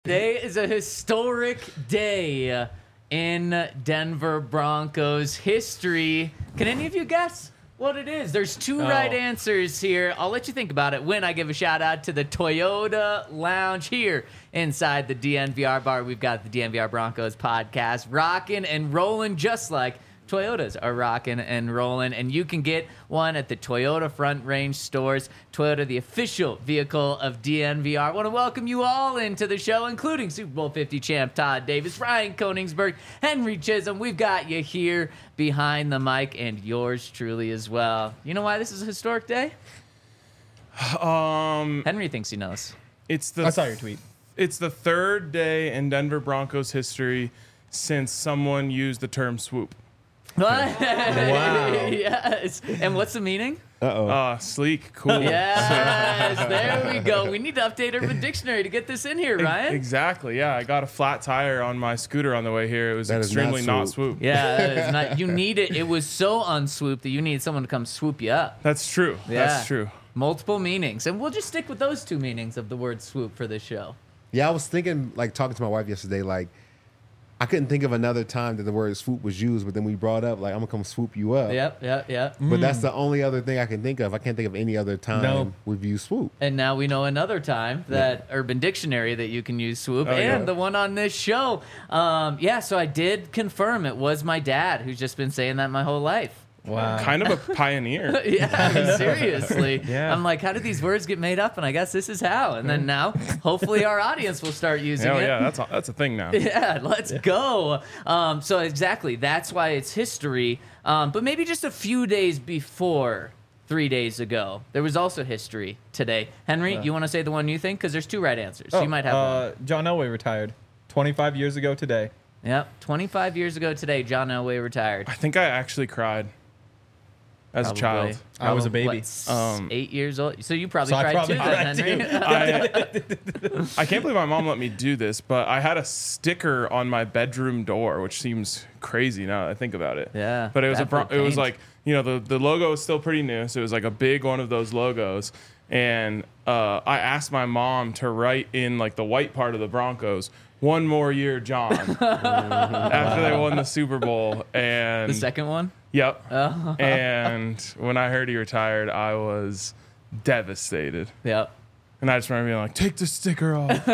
Today is a historic day in Denver Broncos history. Can any of you guess what it is? There's two right answers here. I'll let you think about it when I give a shout out to the Toyota Lounge here inside the DNVR bar. We've got the DNVR Broncos podcast rocking and rolling just like Toyotas are rocking and rolling, and you can get one at the Toyota Front Range stores. Toyota, the official vehicle of DNVR. I want to welcome you all into the show, including Super Bowl 50 champ Todd Davis, Ryan Koenigsberg, Henry Chisholm. We've got you here behind the mic, and yours truly as well. You know why this is a historic day? Henry thinks he knows. I saw your tweet. It's the third day in Denver Broncos history since someone used the term swoop. Wow. Yes. And what's the meaning? Sleek, cool. Yes, there we go. We need to update Urban Dictionary to get this in here, Ryan. Exactly, yeah. I got a flat tire on my scooter on the way here. It was extremely not swoop. Yeah, that is not, you need it. It was so unswoop that you need someone to come swoop you up. That's true. Yeah. That's true. Multiple meanings. And we'll just stick with those two meanings of the word swoop for this show. Yeah, I was thinking, talking to my wife yesterday, I couldn't think of another time that the word swoop was used, but then we brought up, I'm going to come swoop you up. Yep. But that's the only other thing I can think of. I can't think of any other time we've used swoop. And now we know another time that Urban Dictionary that you can use swoop the one on this show. So I did confirm it was my dad who's just been saying that my whole life. Wow. Kind of a pioneer. Yeah, seriously. Yeah. I'm like, how did these words get made up? And I guess this is how. And then now, hopefully, our audience will start using it. Yeah, that's a thing now. Yeah, let's go. So exactly, that's why it's history. But maybe just a few days before 3 days ago, there was also history today. Henry, you want to say the one you think? Because there's two right answers. So you might have one. John Elway retired 25 years ago today. Yep, 25 years ago today, John Elway retired. I think I actually cried as a child. I was a baby. What, 8 years old? So you probably cried too then, Henry. I can't believe my mom let me do this, but I had a sticker on my bedroom door, which seems crazy now that I think about it. Yeah. But it was the logo was still pretty new, so it was like a big one of those logos. And I asked my mom to write in the white part of the Broncos, "One more year, John," after they won the Super Bowl. And The second one? Yep. Oh. And when I heard he retired, I was devastated. Yep. And I just remember being like, "Take the sticker off."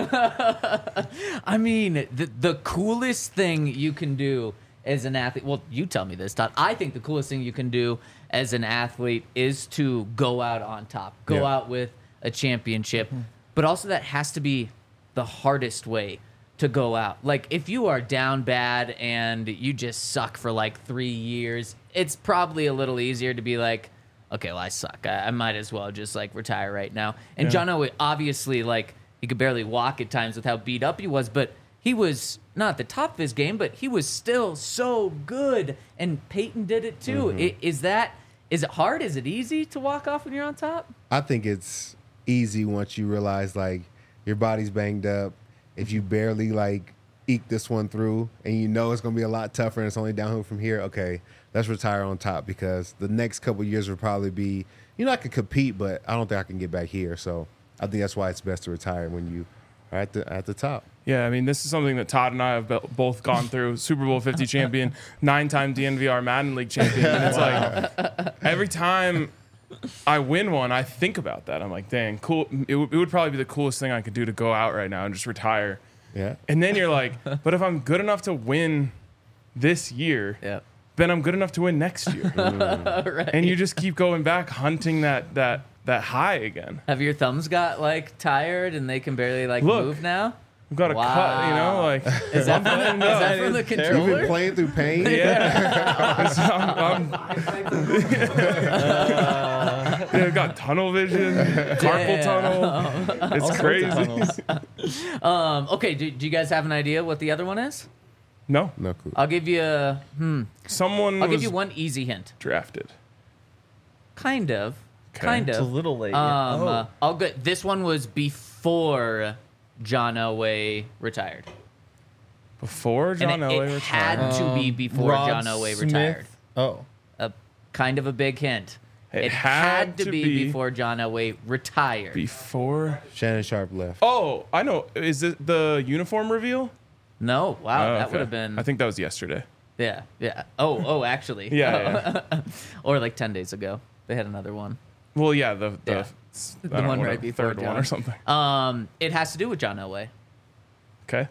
I mean, the coolest thing you can do as an athlete, well, you tell me this, Todd. I think the coolest thing you can do as an athlete is to go out on top, go out with a championship. Mm-hmm. But also that has to be the hardest way to go out. Like, if you are down bad and you just suck for 3 years, it's probably a little easier to be like, okay, well, I suck. I might as well just retire right now. And John Elway, obviously, he could barely walk at times with how beat up he was, but he was not at the top of his game, but he was still so good. And Peyton did it too. Mm-hmm. Is it hard? Is it easy to walk off when you're on top? I think it's easy once you realize your body's banged up. If you barely eke this one through and you know it's going to be a lot tougher and it's only downhill from here, okay, let's retire on top, because the next couple of years will probably be, I could compete, but I don't think I can get back here. So I think that's why it's best to retire when you are at the top. Yeah, I mean, this is something that Todd and I have both gone through. Super Bowl 50 champion, 9-time DNVR Madden League champion. And it's every time I win one, I think about that. I'm like, dang, cool. It would probably be the coolest thing I could do to go out right now and just retire. Yeah. And then you're like, but if I'm good enough to win this year, then I'm good enough to win next year. Right. And you just keep going back, hunting that high again. Have your thumbs got tired and they can barely move now? I've got a cut, Is that from the controller? You've been playing through pain? Yeah. I've got tunnel vision, carpal tunnel. It's crazy. Okay, do you guys have an idea what the other one is? No clue. I'll give you Someone I'll give you one easy hint. Drafted. Kind of. Okay. Kind of. It's a little late. I'll go. This one was before John Elway retired. Before John Elway It retired? had to be before Rod John Elway Smith. retired. Oh. Kind of a big hint. It had had to to be be before John Elway retired. Before. Shannon Sharp left. Oh, I know. Is it the uniform reveal? No, wow, Oh, that okay. would have been. I think that was yesterday. Yeah. Oh, actually. Yeah, Or like 10 days ago, they had another one. Well, yeah, the Yeah. I don't one know, right before third one John. or something. It has to do with John Elway. Okay.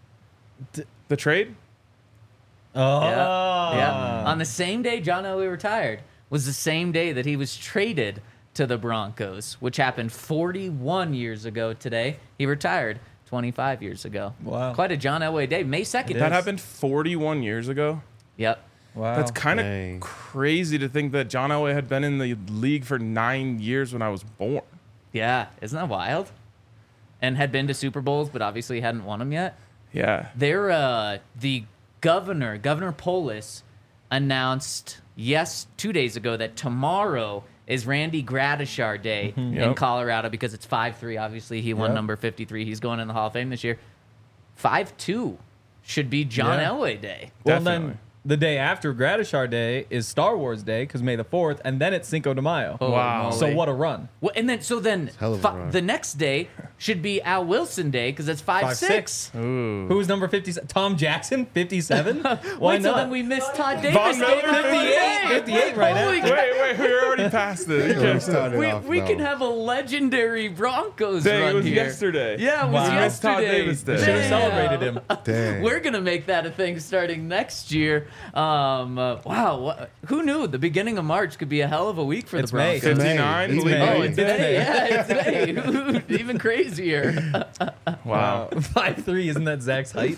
The trade? Oh. Yeah. On the same day John Elway retired was the same day that he was traded to the Broncos, which happened 41 years ago today. He retired 25 years ago. Wow. Quite a John Elway day. May 2nd. That happened 41 years ago. Yep. Wow. That's kind Dang. of crazy to think that John Elway had been in the league for 9 years when I was born. Yeah. Isn't that wild? And had been to Super Bowls, but obviously hadn't won them yet. Yeah. The Governor Polis announced 2 days ago that tomorrow is Randy Gradishar Day in Yep. Colorado because it's 5-3. Obviously, he won Yep. number 53. He's going in the Hall of Fame this year. 5-2 should be John Yeah. Elway Day. Well, Definitely. then the day after Gradishar Day is Star Wars Day because May the 4th, and then it's Cinco de Mayo. Holy Wow. moly. So what a run. Well, and then hell of a run. the next day should be Al Wilson Day because it's 5-6. Ooh. Who's number 57? Tom Jackson, 57? Why Wait, so not? then we missed Todd Davis. Von Miller, Day. 58, 58 right Holy after. Wait, we're already past it. You We can't started We, off, we though. can have a legendary Broncos Dang, run it was here. yesterday. Yeah, it was Wow. It's Todd yesterday. Davis Day. Should have Damn. celebrated him. Dang. We're gonna make that a thing starting next year. Wow, who knew? The beginning of March could be a hell of a week for It's the May. Broncos. 59, He's believe May. me. Oh, it's May. Yeah, it's May. Even crazier. Wow. 5'3", isn't that Zach's height?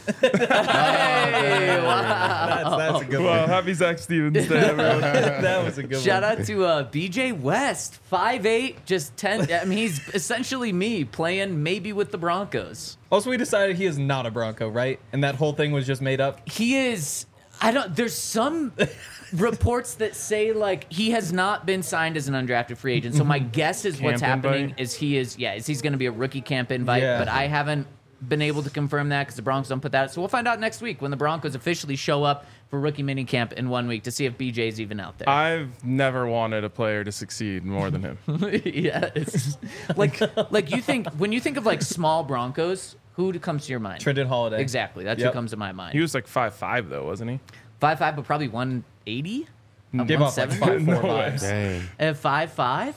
Hey, wow. That's a good Well, one. happy Zach Stevens Day, everyone. That was a good Shout one. out to BJ West, 5'8", just 10. I mean, he's essentially me playing maybe with the Broncos. Also, we decided he is not a Bronco, right? And that whole thing was just made up. He is. There's some reports that say like he has not been signed as an undrafted free agent. So my guess is what's Camp happening invite? is he's going to be a rookie camp invite. Yeah. But I haven't been able to confirm that because the Broncos don't put that. So we'll find out next week when the Broncos officially show up for rookie mini camp in 1 week to see if BJ's even out there. I've never wanted a player to succeed more than him. Yes. like when you think of like small Broncos, who comes to your mind? Trenton Holiday. Exactly. That's Yep. who comes to my mind. He was like 5'5", though, wasn't he? 5'5", but probably 180. Give up like 170? 5'4" No way. vibes. Dang. At 5'5". 5'5",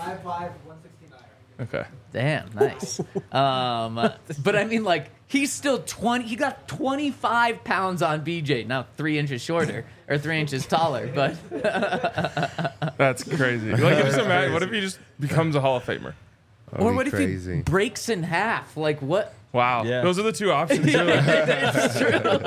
169. Okay. Damn, nice. But I mean, like, he's still 20. He got 25 pounds on BJ. Now 3 inches shorter or 3 inches taller. But That's crazy. Like, just imagine, what if he just becomes a Hall of Famer? That'd or be what if crazy. he breaks in half? Like what? Wow. Yeah. Those are the two options. You're like, It's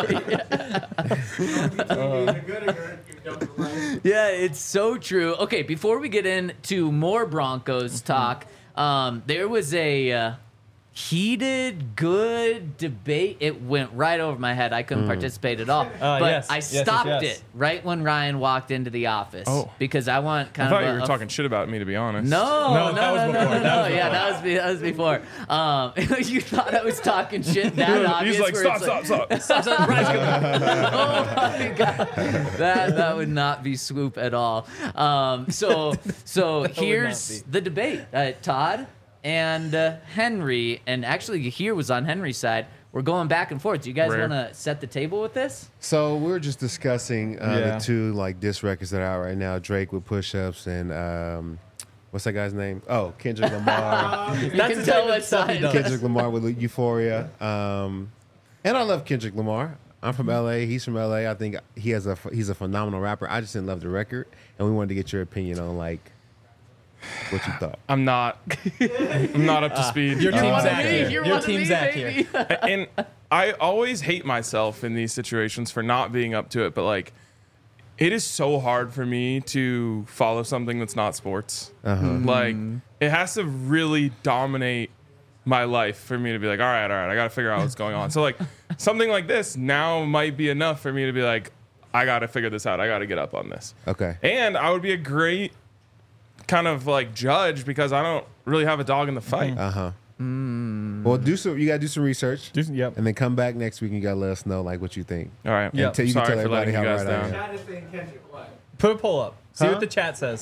true. Yeah, it's so true. Okay, before we get into more Broncos talk, there was a heated, good debate. It went right over my head. I couldn't participate at all. But yes. I Yes, yes, stopped yes. it right when Ryan walked into the office. Oh. Because I want I kind thought of you were talking shit about me, to be honest. No, that was before. That was Yeah, that was before. You thought I was talking shit that obvious. He's like, where stop, it's stop, stop. Oh my god, that would not be Swoop at all. So here's be. the debate. Todd and Henry, and actually here was on Henry's side. We're going back and forth. Do you guys Rare. want to set the table with this? So we were just discussing Yeah. the two like diss records that are out right now: Drake with Push Ups and what's that guy's name? Oh, Kendrick Lamar. You That's can the tell type of what stuff he side. does. Kendrick Lamar with Euphoria. And I love Kendrick Lamar. I'm from LA. He's from LA. I think he's a phenomenal rapper. I just didn't love the record, and we wanted to get your opinion on like what you thought. I'm not up to speed. Your You're team one of Zach me. here. You're Your one of team me, Zach baby. here. And I always hate myself in these situations for not being up to it, but like, it is so hard for me to follow something that's not sports. Like, it has to really dominate my life for me to be like, all right, I got to figure out what's going on. So like, something like this now might be enough for me to be like, I got to figure this out. I got to get up on this. Okay. And I would be a great kind of like judge because I don't really have a dog in the fight. Well, you gotta do some research, Yep. and then come back next week and you gotta let us know like what you think. All Yeah. right. You can Sorry tell for everybody letting you how guys right I down. am. Chat is saying Kendrick, what? Put a poll up. See Huh? what the chat says. The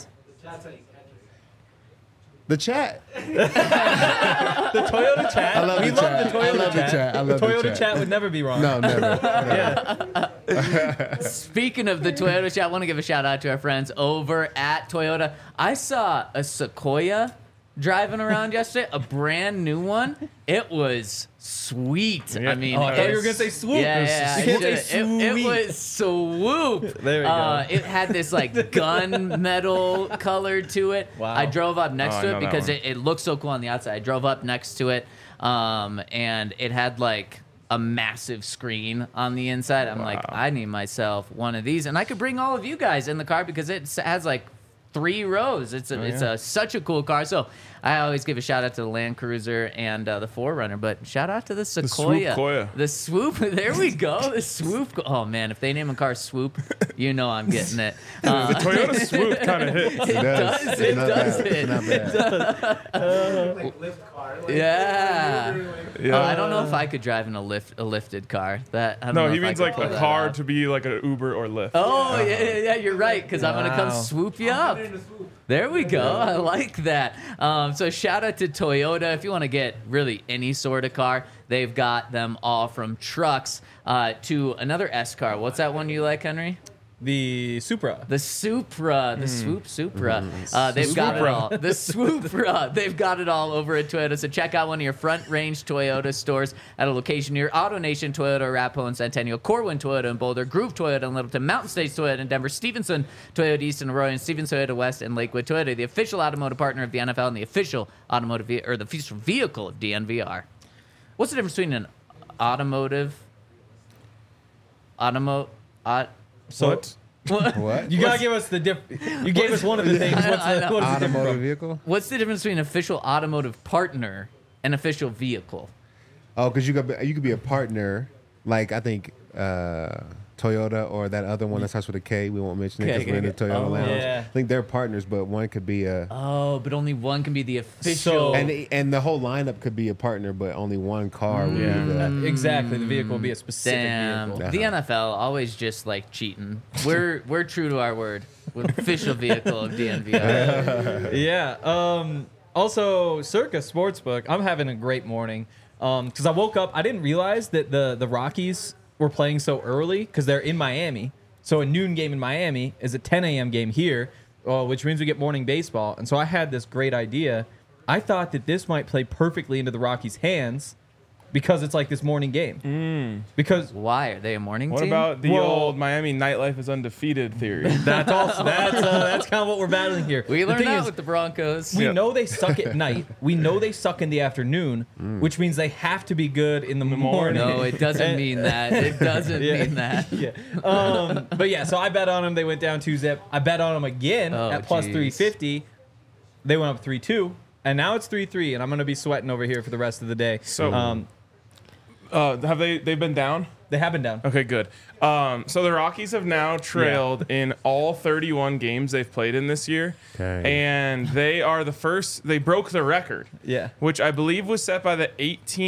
That's how you catch it. The chat. The Toyota chat. I love we the love chat. the I Toyota love the chat. chat. I love the the Toyota chat. chat would never be wrong. No, never. Yeah. Speaking of the Toyota chat, I want to give a shout out to our friends over at Toyota. I saw a Sequoia driving around yesterday, a brand new one. It was sweet. Yeah. I mean, Oh, I thought you were it's- gonna say swoop. Yeah, You I can't say should've- it sweet. was swoop. There we go. It had this like gun metal color to it. Wow. I drove up next Oh, I to know it that because one. it looked so cool on the outside. I drove up next to it, and it had like a massive screen on the inside. I'm like, Wow. I need myself one of these, and I could bring all of you guys in the car because it has like 3 rows. It's such a cool car. So I always give a shout out to the Land Cruiser and the 4Runner, but shout out to the Sequoia. Swoop-Koya. The Swoop. There we go. The Swoop. Oh man, if they name a car Swoop, you know I'm getting it. The Toyota Swoop kind of hits. It does. It's It not does. bad. It's not bad. Like lift car. Like, Yeah. Yeah. I don't know if I could drive in a lifted car. That I don't No, know he if I means could like pull a that car off. to be like an Uber or Lyft. Oh yeah, you're right. Because I'm gonna come Wow. swoop you up. There we go. I like that. So shout out to Toyota. If you want to get really any sort of car, they've got them all from trucks to another S car. What's that one you like, Henry? The Supra. The Supra, the Swoop Supra. They've got it all. The Swoopra. They've got it all over at Toyota. So check out one of your front range Toyota stores at a location near AutoNation Toyota, Arapahoe and Centennial, Corwin Toyota in Boulder, Groove Toyota in Littleton, Mountain States Toyota in Denver, Stevenson Toyota East in Arroyo, and Stevens Toyota West in Lakewood Toyota, the official automotive partner of the NFL and the official automotive the official vehicle of DNVR. What's the difference between an So What? What? you gotta give us the diff. You gave us one of the things. What's I the, know. what is the Automotive difference? vehicle? What's the difference between official automotive partner and official vehicle? Oh, because you could be a partner, like I think Toyota or that other one that starts with a K. We won't mention it because Okay, we're in the okay. Toyota Oh. lounge. Yeah. I think they're partners, but one could be a. Oh, but only one can be the official. So- And the whole lineup could be a partner, but only one car would Yeah. be the. Exactly. The vehicle will be a specific Damn, vehicle. the NFL always just like cheating. We're true to our word with official vehicle of DNVR. Yeah. Also, Circa Sportsbook. I'm having a great morning. Because I woke up, I didn't realize that the Rockies were playing so early because they're in Miami. So a noon game in Miami is a 10 a.m. game here, which means we get morning baseball. And so I had this great idea. I thought that this might play perfectly into the Rockies' hands because it's like this morning game. Because Why are they a morning What team? about the Well- old Miami nightlife is undefeated theory? that's also that's kind of what we're battling here. We The learned thing that is, with the Broncos. we Yeah. know they suck at night. We know they suck in the afternoon, which means they have to be good in the morning. No, it doesn't mean that. It doesn't Yeah. mean that. Yeah. But yeah, so I bet on them. They went down 2-zip. I bet on them again Oh, at plus geez. 350. They went up 3-2, and now it's 3-3, and I'm gonna be sweating over here for the rest of the day. So- Have they've been down? They have been down. Okay, good. So the Rockies have now trailed in all 31 games they've played in this year. Okay. And they are the first, they broke the record. Yeah. Which I believe was set by the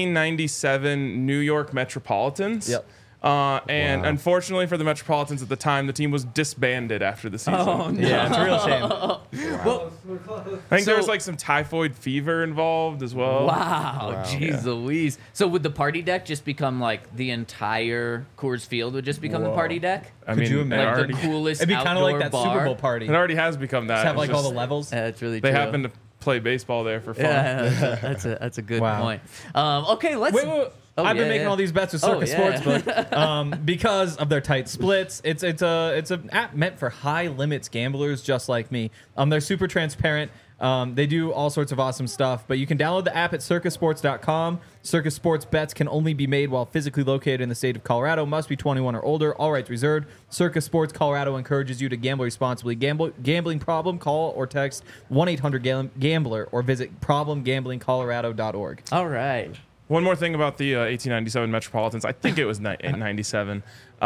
1897 New York Metropolitans. Yep. And Wow. unfortunately for the Metropolitans at the time, the team was disbanded after the season. Oh, no. Yeah, it's a real shame. Well, I think So- there's like some typhoid fever involved as well. wow, jeez Louise. So would the party deck just become like the entire Coors Field would just become the Whoa. party deck? I Could mean, you it imagine? Like already, the coolest It'd be kind of outdoor like that bar? Super Bowl party. it already has become that. Just have It's like all the just- levels. That's really They true. happen to play baseball there for fun. Yeah, that's a good Wow. point. Okay, let's. Wait. Oh, I've been yeah, making yeah. all these bets with Oh, Circa yeah. Sportsbook because of their tight splits. It's an app meant for high limits gamblers just like me. They're super transparent. They do all sorts of awesome stuff, but you can download the app at circusports.com. Circa Sports bets can only be made while physically located in the state of Colorado. Must be 21 or older. All rights reserved. Circa Sports Colorado encourages you to gamble responsibly. Gambling problem? Call or text 1-800-GAMBLER or visit problemgamblingcolorado.org. All right. One more thing about the 1897 Metropolitans. I think it was 97.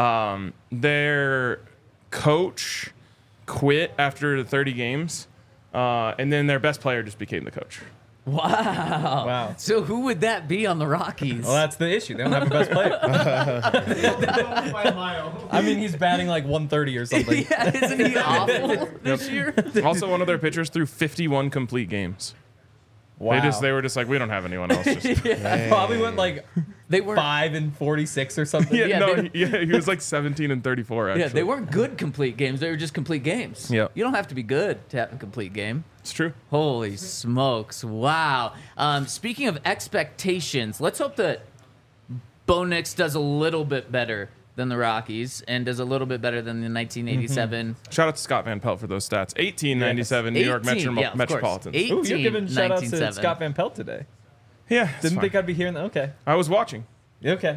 Their coach quit after the 30 games, and then their best player just became the coach. Wow. Wow. So who would that be on the Rockies? Well, that's the issue. They don't have a best player. By a mile. I mean, he's batting like 130 or something. yeah, isn't he awful this year? Also, one of their pitchers threw 51 complete games. Wow. They were just like, we don't have anyone else. Just, Probably went like They were 5 and 46 or something. yeah, Yeah, no, they- he was like 17 and 34. Actually, Yeah, they weren't good complete games. They were just complete games. Yep. You don't have to be good to have a complete game. It's true. Holy smokes. Wow. Speaking of expectations, let's hope that Bo Nix does a little bit better than the Rockies and does a little bit better than the 1987. Shout out to Scott Van Pelt for those stats. 1897 New York 18, yeah, of course. Metropolitans. 18, Ooh, you're giving shout outs to 1907. Scott Van Pelt today. Yeah, it's Didn't fine. think I'd be hearing that. Okay. I was watching. Okay.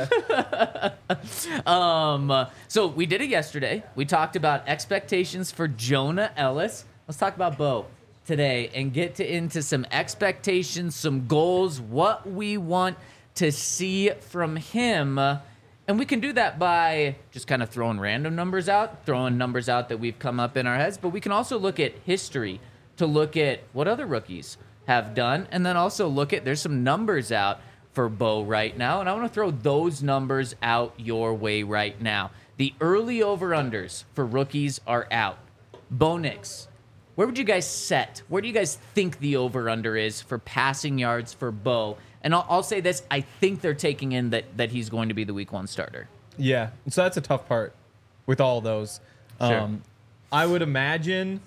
So we did it yesterday. We talked about expectations for Jonah Ellis. Let's talk about Bo today and get into some expectations, some goals, what we want to see from him. And we can do that by just kind of throwing random numbers out, throwing numbers out that we've come up in our heads. But we can also look at history to look at what other rookies have done. And then also look at, there's some numbers out for Bo right now. And I want to throw those numbers out your way right now. The early over-unders for rookies are out. Bo Nix, where would you guys set? Where do you guys think the over-under is for passing yards for Bo? And I'll say this, I think they're taking in that he's going to be the week 1 starter. Yeah. So that's a tough part with all those. Sure. I would imagine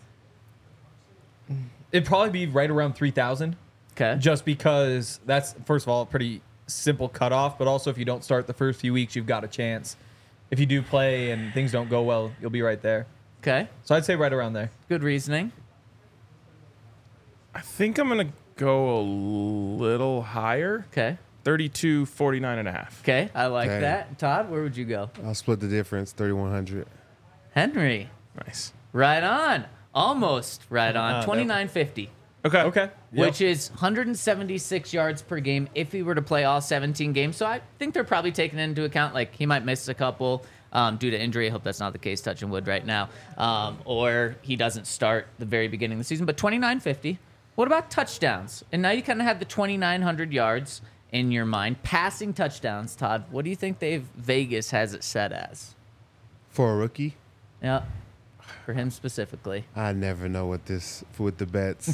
it'd probably be right around 3,000. Okay. Just because that's, first of all, a pretty simple cutoff, but also if you don't start the first few weeks, you've got a chance. If you do play and things don't go well, you'll be right there. Okay. So I'd say right around there. Good reasoning. I think I'm going to go a little higher. Okay. 32, 49 and a half. Okay. I like Okay. that. Todd, where would you go? I'll split the difference, 3,100. Henry. Nice. Right on. Almost right on. no. 29.50. Okay. Okay. Which is 176 yards per game if he were to play all 17 games. So I think they're probably taking into account, like, he might miss a couple due to injury. I hope that's not the case, touching wood right now. Or he doesn't start the very beginning of the season. But 29.50. What about touchdowns? And now you kind of have the 2,900 yards in your mind. Passing touchdowns, Todd. What do you think Vegas has it set as? For a rookie, Yeah. For him specifically. I never know with the bets.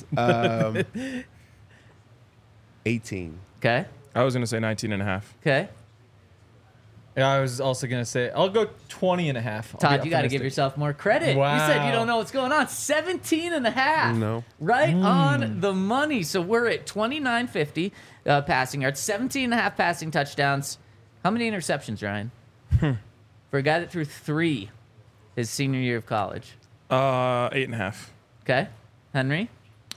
18. Okay. I was going to say 19 and a half. Okay. Yeah, I was also going to say, I'll go 20 and a half. I'll Todd, be you got to give optimistic. yourself more credit. You said you Wow. don't know what's going on. 17 and a half. No. Right on the money. So we're at 29.50 passing yards, 17 and a half passing touchdowns. How many interceptions, Ryan? For a guy that threw 3 his senior year of college. 8 and a half. Okay. Henry?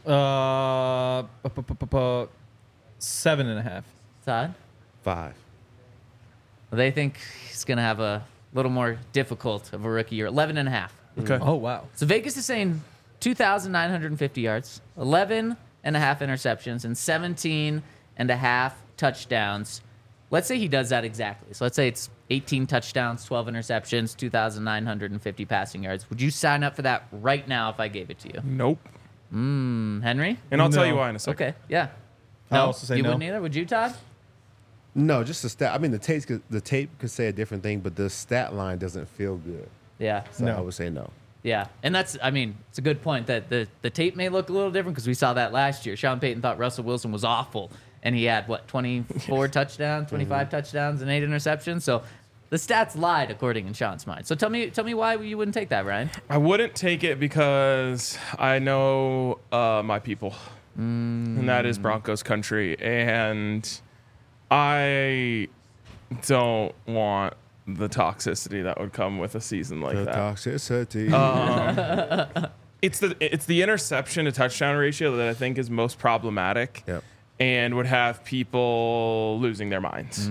7.5. Todd? 5. Well, they think he's going to have a little more difficult of a rookie year. 11 and a half. Okay. Oh, wow. So Vegas is saying 2,950 yards, 11 and a half interceptions, and 17 and a half touchdowns. Let's say he does that exactly. So let's say it's 18 touchdowns, 12 interceptions, 2,950 passing yards. Would you sign up for that right now if I gave it to you? Nope. Henry? And I'll tell you No. why in a second. Okay, yeah. I'll also say you no. wouldn't either? Would you, Todd? No, just the stat. I mean, the tape could say a different thing, but the stat line doesn't feel good. Yeah. So No. I would say no. Yeah, and it's a good point that the tape may look a little different because we saw that last year. Sean Payton thought Russell Wilson was awful, and he had, 24 touchdowns, 25 touchdowns, and 8 interceptions. So the stats lied according in Sean's mind. So tell me why you wouldn't take that, Ryan. I wouldn't take it because I know my people, and that is Broncos country, and I don't want the toxicity that would come with a season like The that. toxicity. It's the interception to touchdown ratio that I think is most problematic, Yep. and would have people losing their minds.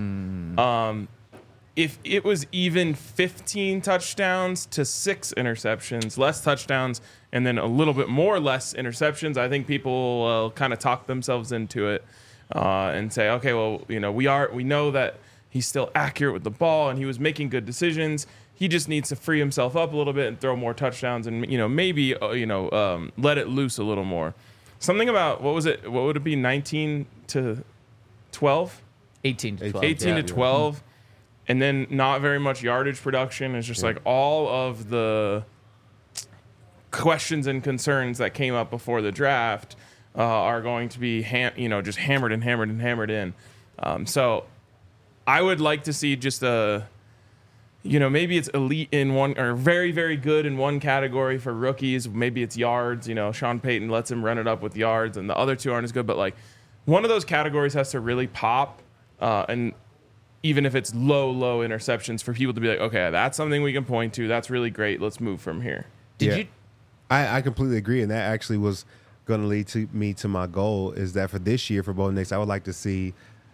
If it was even 15 touchdowns to 6 interceptions, less touchdowns, and then a little bit more less interceptions, I think people will kind of talk themselves into it and say, okay, well, we know that he's still accurate with the ball and he was making good decisions. He just needs to free himself up a little bit and throw more touchdowns and maybe let it loose a little more. something about what was it? What would it be? 19 to 12, 18 to 12. 18 to 12, and then not very much yardage production. It's just like all of the questions and concerns that came up before the draft are going to be just hammered and hammered and hammered in. So I would like to see just maybe it's elite in one or very, very good in one category for rookies. Maybe it's yards. Sean Payton lets him run it up with yards, and the other two aren't as good. But like one of those categories has to really pop, and even if it's low interceptions, for people to be like, okay, that's something we can point to. That's really great. Let's move from here. Did you? I completely agree, and that actually was going to lead me to my goal is that for this year for Bo Nix, I would like to see.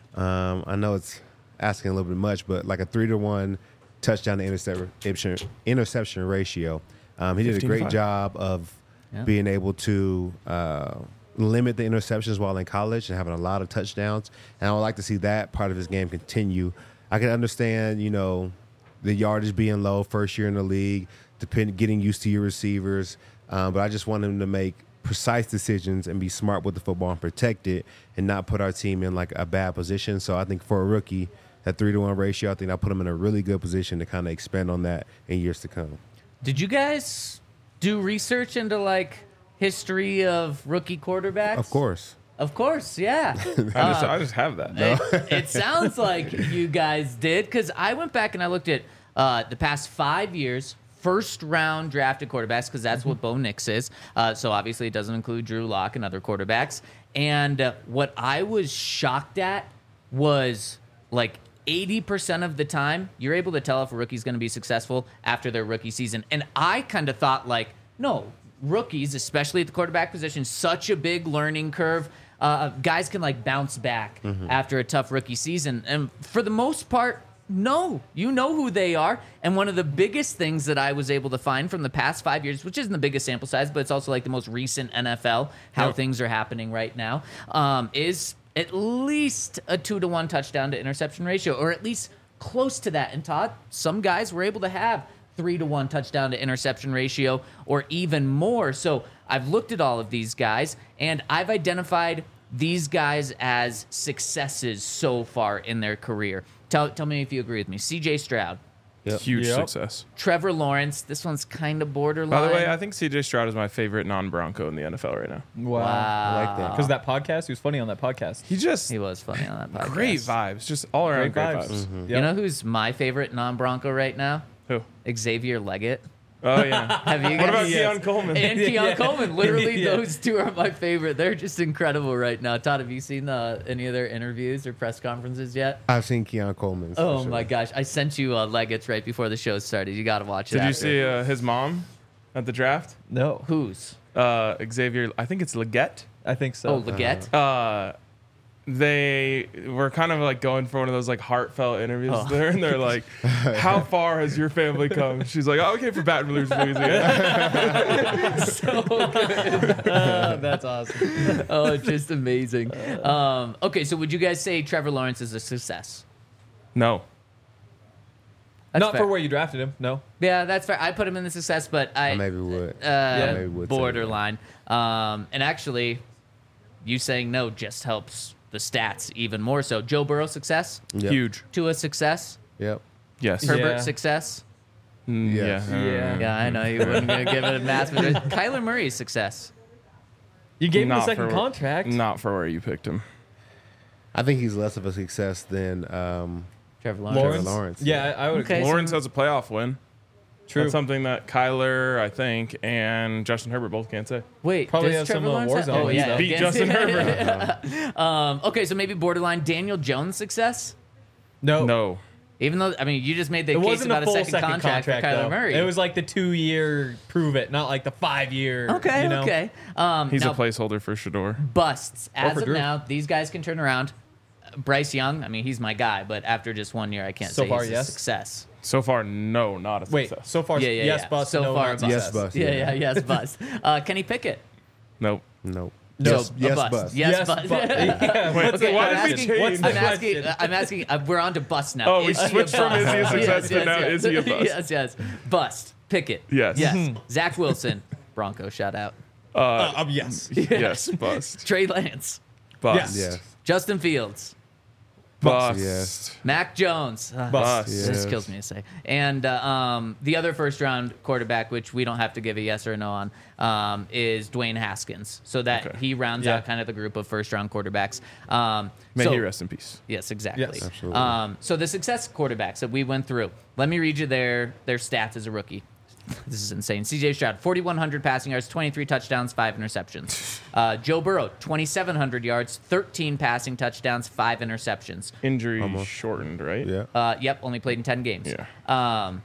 I know it's asking a little bit much, but like a 3-to-1 touchdown to interception ratio. He did a great job of being able to limit the interceptions while in college and having a lot of touchdowns. And I would like to see that part of his game continue. I can understand, the yardage being low first year in the league, getting used to your receivers. But I just want him to make precise decisions and be smart with the football and protect it and not put our team in like a bad position. So I think for a rookie, that 3-to-1 ratio, I think I'll put him in a really good position to kind of expand on that in years to come. Did you guys do research into like history of rookie quarterbacks? Of course, yeah. I just have that. It sounds like you guys did, because I went back and I looked at the past 5 years, first round drafted quarterbacks, because that's what Bo Nix is. So obviously it doesn't include Drew Lock and other quarterbacks. And what I was shocked at was like 80% of the time, you're able to tell if a rookie's going to be successful after their rookie season. And I kind of thought like, no, rookies, especially at the quarterback position, such a big learning curve. Guys can like bounce back after a tough rookie season. And for the most part, no, you know who they are. And one of the biggest things that I was able to find from the past 5 years, which isn't the biggest sample size, but it's also like the most recent NFL, how things are happening right now, is at least a 2-to-1 touchdown to interception ratio, or at least close to that. And Todd, some guys were able to have 3-to-1 touchdown to interception ratio or even more. So I've looked at all of these guys and I've identified these guys as successes so far in their career. Tell me if you agree with me. CJ Stroud. Huge success. Trevor Lawrence. This one's kind of borderline. By the way, I think CJ Stroud is my favorite non-Bronco in the NFL right now. Wow. I like that. Because that podcast, he was funny on that podcast. He was funny on that podcast. Great vibes, just all around great vibes. Yep. You know who's my favorite non-Bronco right now? Who? Xavier Leggett. Oh yeah. Have you guys? What about Keon Coleman? And Keon Coleman. Literally, Yeah. those two are my favorite. They're just incredible right now. Todd, have you seen any of their interviews or press conferences yet? I've seen Keon Coleman. Oh my gosh. I sent you Leggett's right before the show started. You got to watch it. Did you after. see his mom at the draft? No. Who's? Xavier, I think it's Leggett. I think so. Oh, Leggett? They were kind of like going for one of those like heartfelt interviews there, and they're like, "How far has your family come?" She's like, "Oh, okay, for Baton Rouge, Louisiana." So good. That's awesome. Oh, just amazing. Okay, so would you guys say Trevor Lawrence is a success? No, That's Not fair. for where you drafted him. No. Yeah, that's fair. I put him in the success, but I maybe would. maybe would say borderline. And actually, you saying no just helps the stats even more so. Joe Burrow success, Yep. huge. Tua success, Yep. Yes. Herbert Yeah. success. Yes. Yeah. Yeah, I know you wouldn't gonna give it a mass, but Kyler Murray's success. You gave him the Not second for- contract. Not for where you picked him. I think he's less of a success than Trevor Lawrence. Lawrence. Lawrence. Yeah, I would Okay. agree. Lawrence has a playoff win. True. That's something that Kyler, I think, and Justin Herbert both can't say. Wait, Probably does have Trevor some, Lawrence have- Warzone Oh wins, yeah, though. Beat against- Justin Herbert. Okay, so maybe borderline Daniel Jones success. No. No. Even though you just made the It case wasn't about a full second contract for Kyler though. Murray. It was like the 2-year prove it, not like the 5-year. okay. You know? Okay. He's now, a placeholder for Shador. busts as for of Drew. now. These guys can turn around. Bryce Young, I mean, he's my guy, but after just 1 year, I can't So say far, he's yes. a success. So far, no, not a Wait, success. so far, Yeah, yeah, yes, yeah. bust. So no, far, not bust. Yes, success. bust. Yeah, yes, bust. Kenny Pickett. Nope. Nope. So, Yes, a bust. bust. Yes, bust. Yeah, what's Okay, why I'm did we asking, change? I'm asking, we're on to bust now. Oh, we Is he a switched from bust? is he a success to now is he a bust? Yes, yes. Bust. Pickett. Yes. Yes. Zach Wilson. Bronco, shout out. Yes. Yes, bust. Trey Lance, Bust. Yes. Justin Fields, Bust. Yes. Mac Jones. Bust. This Yes. kills me to say. And the other first round quarterback, which we don't have to give a yes or a no on, is Dwayne Haskins. So that Okay. he rounds Yeah. out kind of the group of first round quarterbacks. May so- he rest in peace. Yes, exactly. Yes. Absolutely. So the success quarterbacks that we went through. Let me read you their stats as a rookie. This is insane. C.J. Stroud, 4,100 passing yards, 23 touchdowns, 5 interceptions. Joe Burrow, 2,700 yards, 13 passing touchdowns, 5 interceptions. Injury shortened, right? Yeah. Yep, only played in 10 games. Yeah.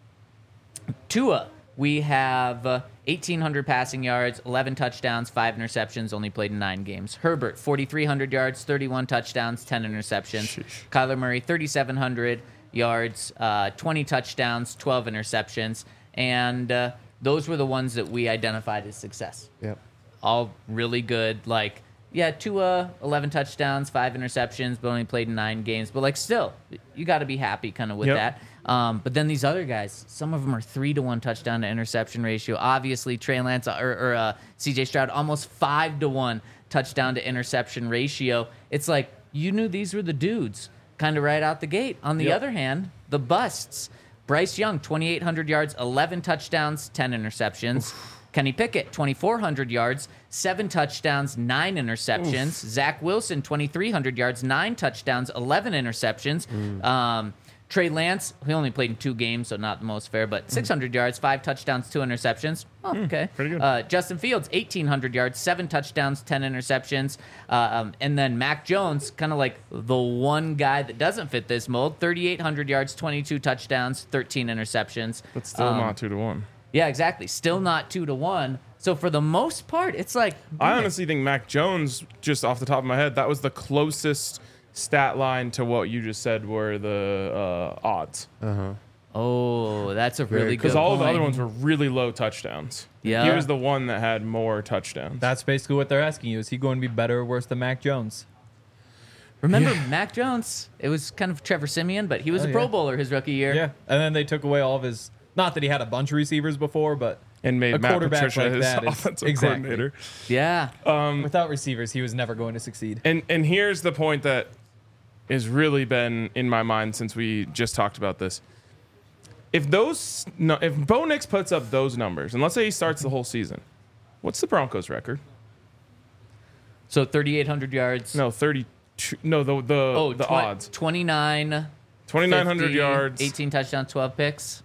Tua, we have 1,800 passing yards, 11 touchdowns, 5 interceptions, only played in 9 games. Herbert, 4,300 yards, 31 touchdowns, 10 interceptions. Sheesh. Kyler Murray, 3,700 yards, 20 touchdowns, 12 interceptions. And those were the ones that we identified as success. Yep. All really good. Like, yeah, Tua, 11 touchdowns, 5 interceptions, but only played in 9 games. But, like, still, you got to be happy kind of with Yep. that. But then these other guys, some of them are 3-to-1 touchdown to interception ratio. Obviously, Trey Lance or C.J. Stroud, almost 5-to-1 touchdown to interception ratio. It's like you knew these were the dudes kind of right out the gate. On the Yep. other hand, the busts. Bryce Young, 2,800 yards, 11 touchdowns, 10 interceptions. Kenny Pickett, 2,400 yards, 7 touchdowns, 9 interceptions. Zach Wilson, 2,300 yards, 9 touchdowns, 11 interceptions. Trey Lance, he only played in 2 games, so not the most fair, but 600 yards, 5 touchdowns, 2 interceptions. Oh, okay. pretty good. Justin Fields, 1,800 yards, 7 touchdowns, 10 interceptions. And then Mac Jones, kind of like the one guy that doesn't fit this mold, 3,800 yards, 22 touchdowns, 13 interceptions. But still not 2-1. Yeah, exactly. Still not 2-to-1. So for the most part, it's like I honestly think Mac Jones, just off the top of my head, that was the closest stat line to what you just said were the odds. oh, that's a really good Because all of the point. other ones were really low touchdowns. Yeah. He was the one that had more touchdowns. That's basically what they're asking you. Is he going to be better or worse than Mac Jones? Remember Mac Jones? It was kind of Trevor Simeon, but he was Oh, a Pro yeah. bowler his rookie year. Yeah. And then they took away all of his. Not that he had a bunch of receivers before, but and made a Matt quarterback Patricia like his that is- offensive exactly. coordinator. Yeah. without receivers, he was never going to succeed. And here's the point that has really been in my mind since we just talked about this. If Bo Nix puts up those numbers, and let's say he starts the whole season, what's the Broncos' record? So 3,800 yards. No, 32. No, the odds. 29. 2,900 50, yards. 18 touchdowns, 12 picks.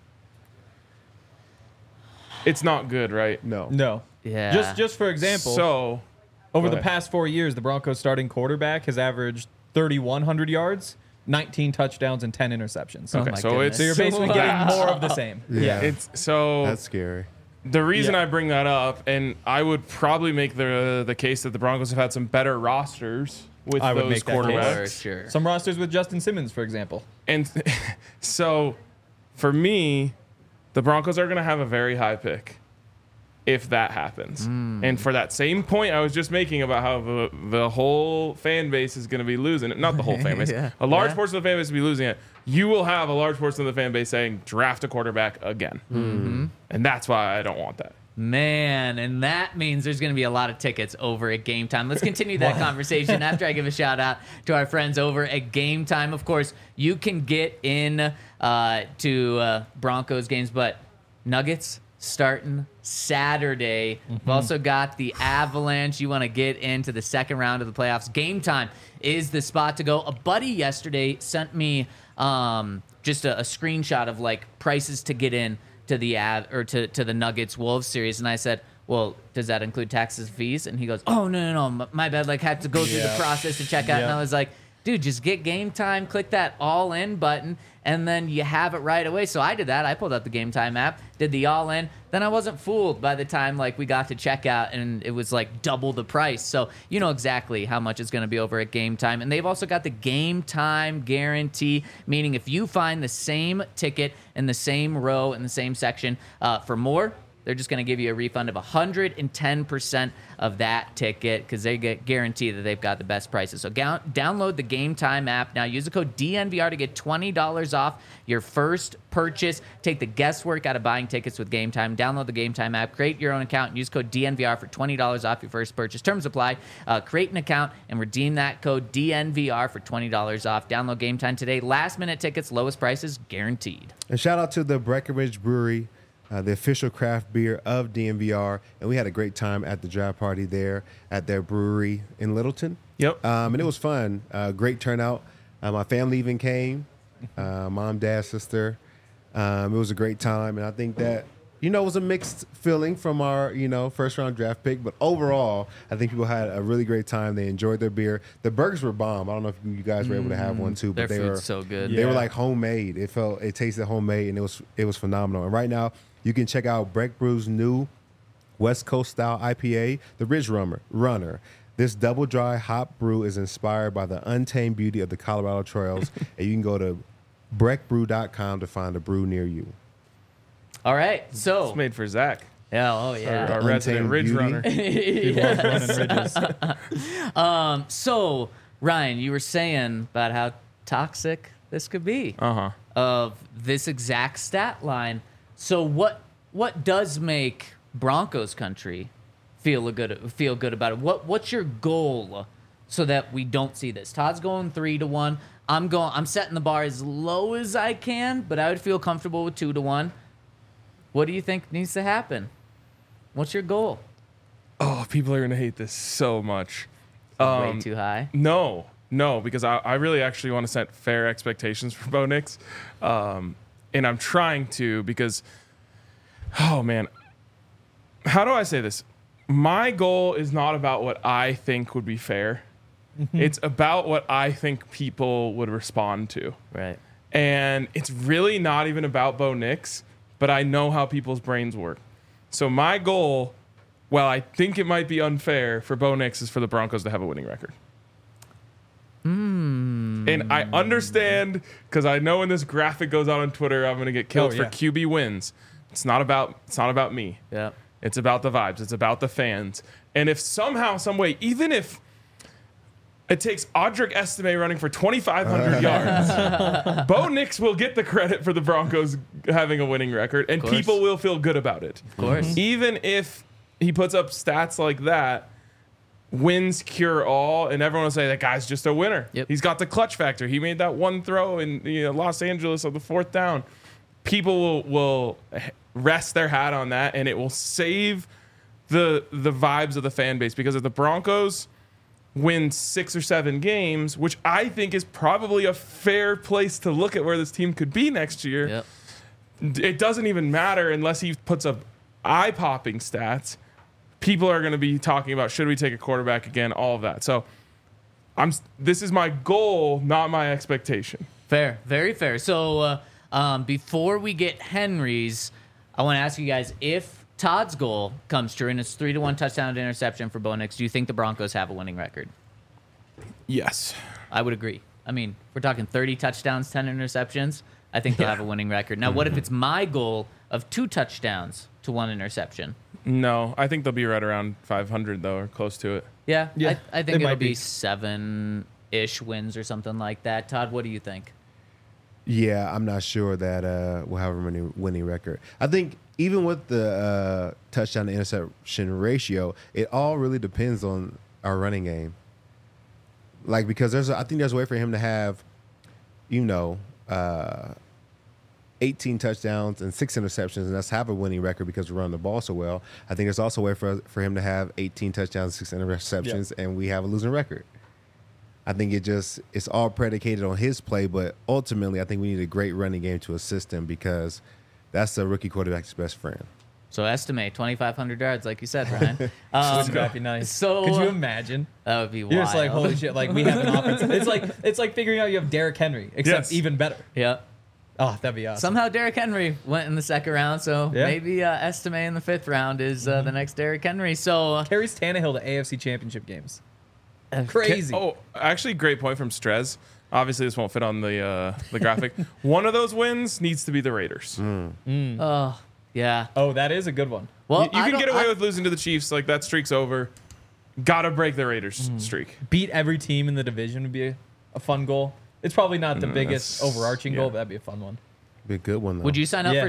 It's not good, right? No. No. Yeah. Just for example, So over go the ahead. past 4 years, the Broncos starting quarterback has averaged 3,100 yards, 19 touchdowns, and 10 interceptions. Oh okay, my so goodness. So you're basically getting more of the same. Yeah. it's so That's scary. the reason Yeah. I bring that up, and I would probably make the case that the Broncos have had some better rosters with I would those make that case. quarterbacks. For sure. Some rosters with Justin Simmons, for example. And so for me, the Broncos are going to have a very high pick if that happens. And for that same point I was just making about how the whole fan base is going to be losing it. Not the whole fan base. Yeah. A large Yeah. portion of the fan base will be losing it. You will have a large portion of the fan base saying, draft a quarterback again. And that's why I don't want that. Man, and that means there's going to be a lot of tickets over at Game Time. Let's continue that conversation after I give a shout out to our friends over at Game Time. Of course, you can get in to Broncos games, but Nuggets starting Saturday. We've also got the Avalanche. You want to get into the second round of the playoffs. Game Time is the spot to go. A buddy yesterday sent me just a screenshot of like prices to get in to the to the Nuggets Wolves series, and I said, well, does that include taxes and fees? And he goes, oh no, my bad, like had to go through the process to check out. And I was like, dude, just get Game Time, click that all in button, and then you have it right away. So I did that. I pulled up the Game Time app, did the all in. Then I wasn't fooled by the time like we got to checkout, and it was like double the price. So you know exactly how much it's going to be over at Game Time. And they've also got the Game Time guarantee, meaning if you find the same ticket in the same row in the same section for more, they're just going to give you a refund of 110% of that ticket because they guarantee that they've got the best prices. So download the Game Time app now. Use the code DNVR to get $20 off your first purchase. Take the guesswork out of buying tickets with Game Time. Download the Game Time app. Create your own account and use code DNVR for $20 off your first purchase. Terms apply. Create an account and redeem that code DNVR for $20 off. Download Game Time today. Last minute tickets, lowest prices guaranteed. And shout out to the Breckenridge Brewery, the official craft beer of DNVR. And we had a great time at the draft party there at their brewery in Littleton. Yep. And it was fun. Great turnout. My family even came. Mom, dad, sister. It was a great time. And I think that, it was a mixed feeling from our, first round draft pick. But overall, I think people had a really great time. They enjoyed their beer. The burgers were bomb. I don't know if you guys were able to have one too, but Their they food's were so good. They were like homemade. It tasted homemade, and it was phenomenal. And right now, you can check out Breck Brew's new West Coast style IPA, the Ridge Runner. This double dry hop brew is inspired by the untamed beauty of the Colorado trails, and you can go to breckbrew.com to find a brew near you. All right. So, It's made for Zach, oh, yeah. our resident Untamed Ridge Beauty. runner. People love running ridges. So, Ryan, you were saying about how toxic this could be of this exact stat line. So, what does make Broncos country feel good about it? What's your goal so that we don't see this? Todd's going 3-1. I'm setting the bar as low as I can, but I would feel comfortable with 2-1. What do you think needs to happen? What's your goal? Oh, people are going to hate this so much. Way too high. No, because I really actually want to set fair expectations for Bo Nix. And I'm trying to because, oh, man. How do I say this? My goal is not about what I think would be fair. It's about what I think people would respond to. Right. And it's really not even about Bo Nix, but I know how people's brains work. So my goal, while I think it might be unfair for Bo Nix, is for the Broncos to have a winning record. And I understand, because I know when this graphic goes out on Twitter, I'm going to get killed for QB wins. It's not about me. Yeah. It's about the vibes. It's about the fans. And if somehow, some way, even if it takes Audric Estime running for 2,500 yards, Bo Nix will get the credit for the Broncos having a winning record, and people will feel good about it. Of course. Even if he puts up stats like that, wins cure all, and everyone will say that guy's just a winner. Yep. He's got the clutch factor. He made that one throw in Los Angeles on the 4th down. People will rest their hat on that, and it will save the vibes of the fan base, because if the Broncos win 6 or 7 games, which I think is probably a fair place to look at where this team could be next year, Yep. it doesn't even matter unless he puts up eye-popping stats. People are going to be talking about, should we take a quarterback again, all of that. So this is my goal, not my expectation. Fair, very fair. So before we get Henry's, I want to ask you guys, if Todd's goal comes true and it's 3-1 touchdown to interception for Bo Nix, do you think the Broncos have a winning record? Yes. I would agree. I mean, we're talking 30 touchdowns, 10 interceptions. I think they'll have a winning record. Now, what if it's my goal of 2 touchdowns to 1 interception? No, I think they'll be right around 500, though, or close to it. Yeah, Yeah, I they think it'll might be be. 7-ish wins or something like that. Todd, what do you think? Yeah, I'm not sure that we'll have a winning record. I think even with the touchdown to interception ratio, it all really depends on our running game. Like, because I think there's a way for him to have, 18 touchdowns and 6 interceptions, and that's have a winning record because we run the ball so well. I think there's also a way for him to have 18 touchdowns, 6 interceptions, and we have a losing record. I think it's all predicated on his play, but ultimately I think we need a great running game to assist him, because that's the rookie quarterback's best friend. So estimate 2,500 yards, like you said, Ryan. Wouldn't that be nice? So could you imagine? That would be wild. You're just like, holy shit! Like, we have an offense. It's like figuring out you have Derrick Henry, except Yes. even better. Yeah. Oh, that'd be awesome. Somehow Derrick Henry went in the 2nd round, so Yeah. maybe Estime in the 5th round is the next Derrick Henry. So Carries Tannehill to AFC Championship games. Crazy. Oh, actually, great point from Strez. Obviously, this won't fit on the graphic. One of those wins needs to be the Raiders. yeah, Yeah. Oh, that is a good one. Well, You can get away with losing to the Chiefs. Like, that streak's over. Gotta break the Raiders streak. Beat every team in the division would be a fun goal. It's probably not the biggest that's- overarching yeah. goal, but that'd be a fun one. Be a good one though. Would you sign up Yeah. for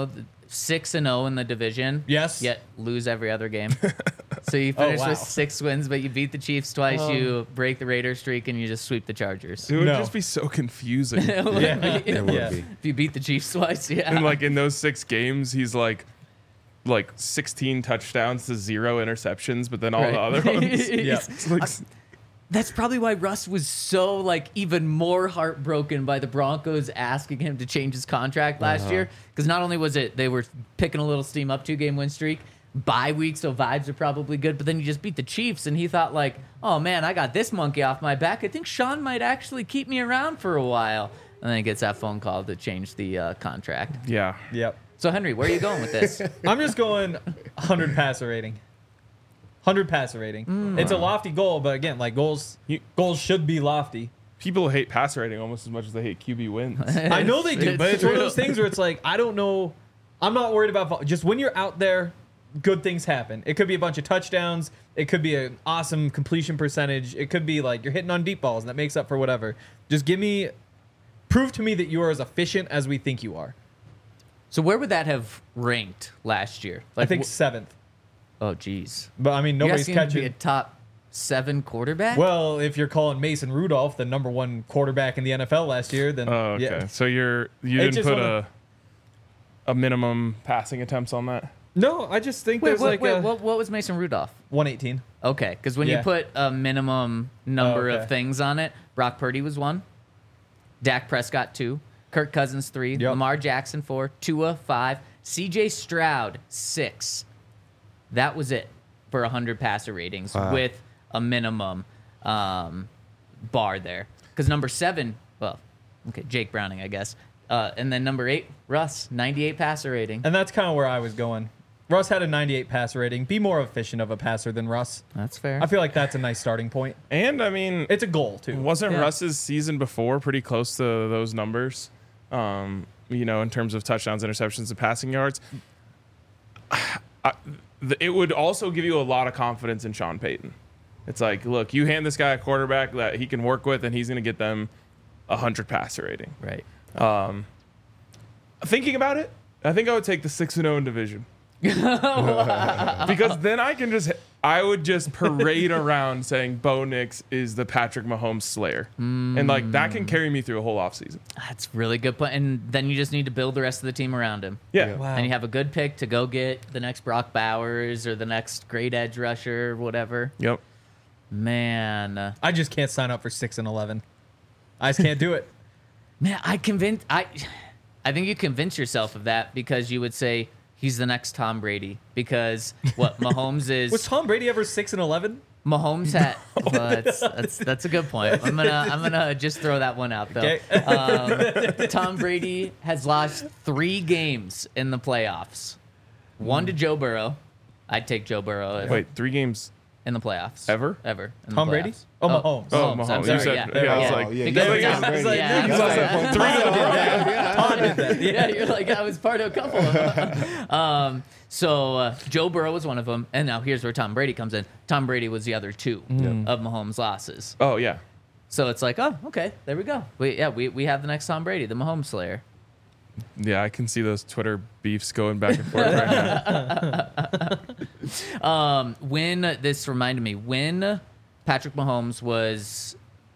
6-0 in the division? Yes. Yet lose every other game. So you finish wow. with 6 wins, but you beat the Chiefs twice. You break the Raiders streak, and you just sweep the Chargers. It would No. just be so confusing. Yeah. It would Yeah. be. If you beat the Chiefs twice, yeah. And like in those 6 games, he's like 16 touchdowns to 0 interceptions, but then all the other ones. Yeah. It's like, That's probably why Russ was so like even more heartbroken by the Broncos asking him to change his contract last year. Because not only was it they were picking a little steam up 2-game win streak, bye week, so vibes are probably good. But then you just beat the Chiefs, and he thought like, oh man, I got this monkey off my back. I think Sean might actually keep me around for a while. And then he gets that phone call to change the contract. yeah. Yep. So Henry, where are you going with this? I'm just going 100 passer rating. 100 passer rating. It's a lofty goal, but again, like goals should be lofty. People hate passer rating almost as much as they hate QB wins. I know they do, It's but it's one of true. those things where it's like, I don't know. I'm not worried about just when you're out there, good things happen. It could be a bunch of touchdowns. It could be an awesome completion percentage. It could be like you're hitting on deep balls and that makes up for whatever. Just prove to me that you are as efficient as we think you are. So where would that have ranked last year? I think wh- 7th. Oh, geez. But I mean, You're nobody's asking him to be a catching. top 7 quarterback? Well, if you're calling Mason Rudolph the number 1 quarterback in the NFL last year, then Oh, okay. yeah. So you It's didn't just put one of- a minimum passing attempts on that? No, I just think wait, there's wait, like what was Mason Rudolph? 118. Okay, because when you Yeah. put a minimum number okay. of things on it, Brock Purdy was 1, Dak Prescott 2, Kirk Cousins 3, Yep. Lamar Jackson 4, Tua 5, CJ Stroud 6. That was it for 100 passer ratings Wow. with a minimum bar there. Because number 7, well, okay, Jake Browning, I guess. And then number 8, Russ, 98 passer rating. And that's kind of where I was going. Russ had a 98 passer rating. Be more efficient of a passer than Russ. That's fair. I feel like that's a nice starting point. And I mean, It's a goal, too. wasn't Yeah. Russ's season before pretty close to those numbers? In terms of touchdowns, interceptions, and passing yards. It would also give you a lot of confidence in Sean Payton. It's like, look, you hand this guy a quarterback that he can work with, and he's going to get them 100 passer rating. right. Thinking about it, I think I would take the 6-0 in division. Because then I would just parade around saying Bo Nix is the Patrick Mahomes slayer. And like that can carry me through a whole offseason. That's really good point. And then you just need to build the rest of the team around him. Yeah. Wow. And you have a good pick to go get the next Brock Bowers or the next great edge rusher, whatever. Yep. Man, I just can't sign up for 6-11. I just can't do it. I think you convince yourself of that because you would say he's the next Tom Brady because what Mahomes is. Was Tom Brady ever 6-11? Mahomes had. Well, that's a good point. I'm gonna just throw that one out though. Okay. Tom Brady has lost 3 games in the playoffs. 1 to Joe Burrow. I'd take Joe Burrow Wait, 3 games in the playoffs. ever? in the Tom Brady? playoffs. Oh, Mahomes. Oh, I'm Mahomes. sorry, You said, yeah. I was Oh, like, yeah, Because you it's- said Tom it's Brady. like, Yeah, no, you sorry, said yeah. Tom did that. Yeah, you're like, I was part of a couple of them. So Joe Burrow was one of them. And now here's where Tom Brady comes in. Tom Brady was the other 2 of Mahomes' losses. oh, yeah. So it's like, oh, okay, there we go. We have the next Tom Brady, the Mahomes Slayer. Yeah, I can see those Twitter beefs going back and forth right now. This reminded me, when Patrick Mahomes was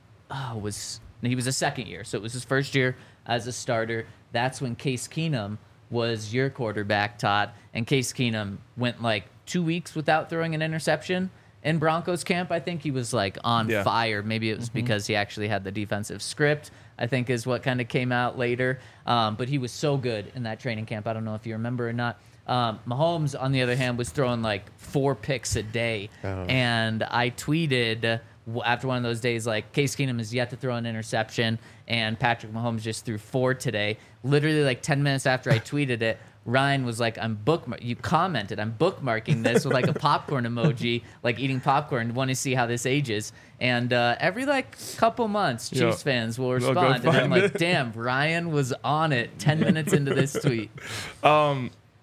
he was a second year, so it was his first year as a starter. That's when Case Keenum was your quarterback, Todd, and Case Keenum went like 2 weeks without throwing an interception in Broncos camp. I think he was like on Yeah. fire. Maybe it was because he actually had the defensive script, I think is what kind of came out later. But he was so good in that training camp. I don't know if you remember or not. Mahomes, on the other hand, was throwing like 4 picks a day. And I tweeted after one of those days, like, Case Keenum has yet to throw an interception, and Patrick Mahomes just threw 4 today. Literally, like 10 minutes after I tweeted it, Ryan was like, you commented, I'm bookmarking this with like a popcorn emoji, like eating popcorn, want to see how this ages. And every like couple months, Yeah. Chiefs fans will They'll go respond. And I'm find like, it. damn, Ryan was on it 10 minutes into this tweet.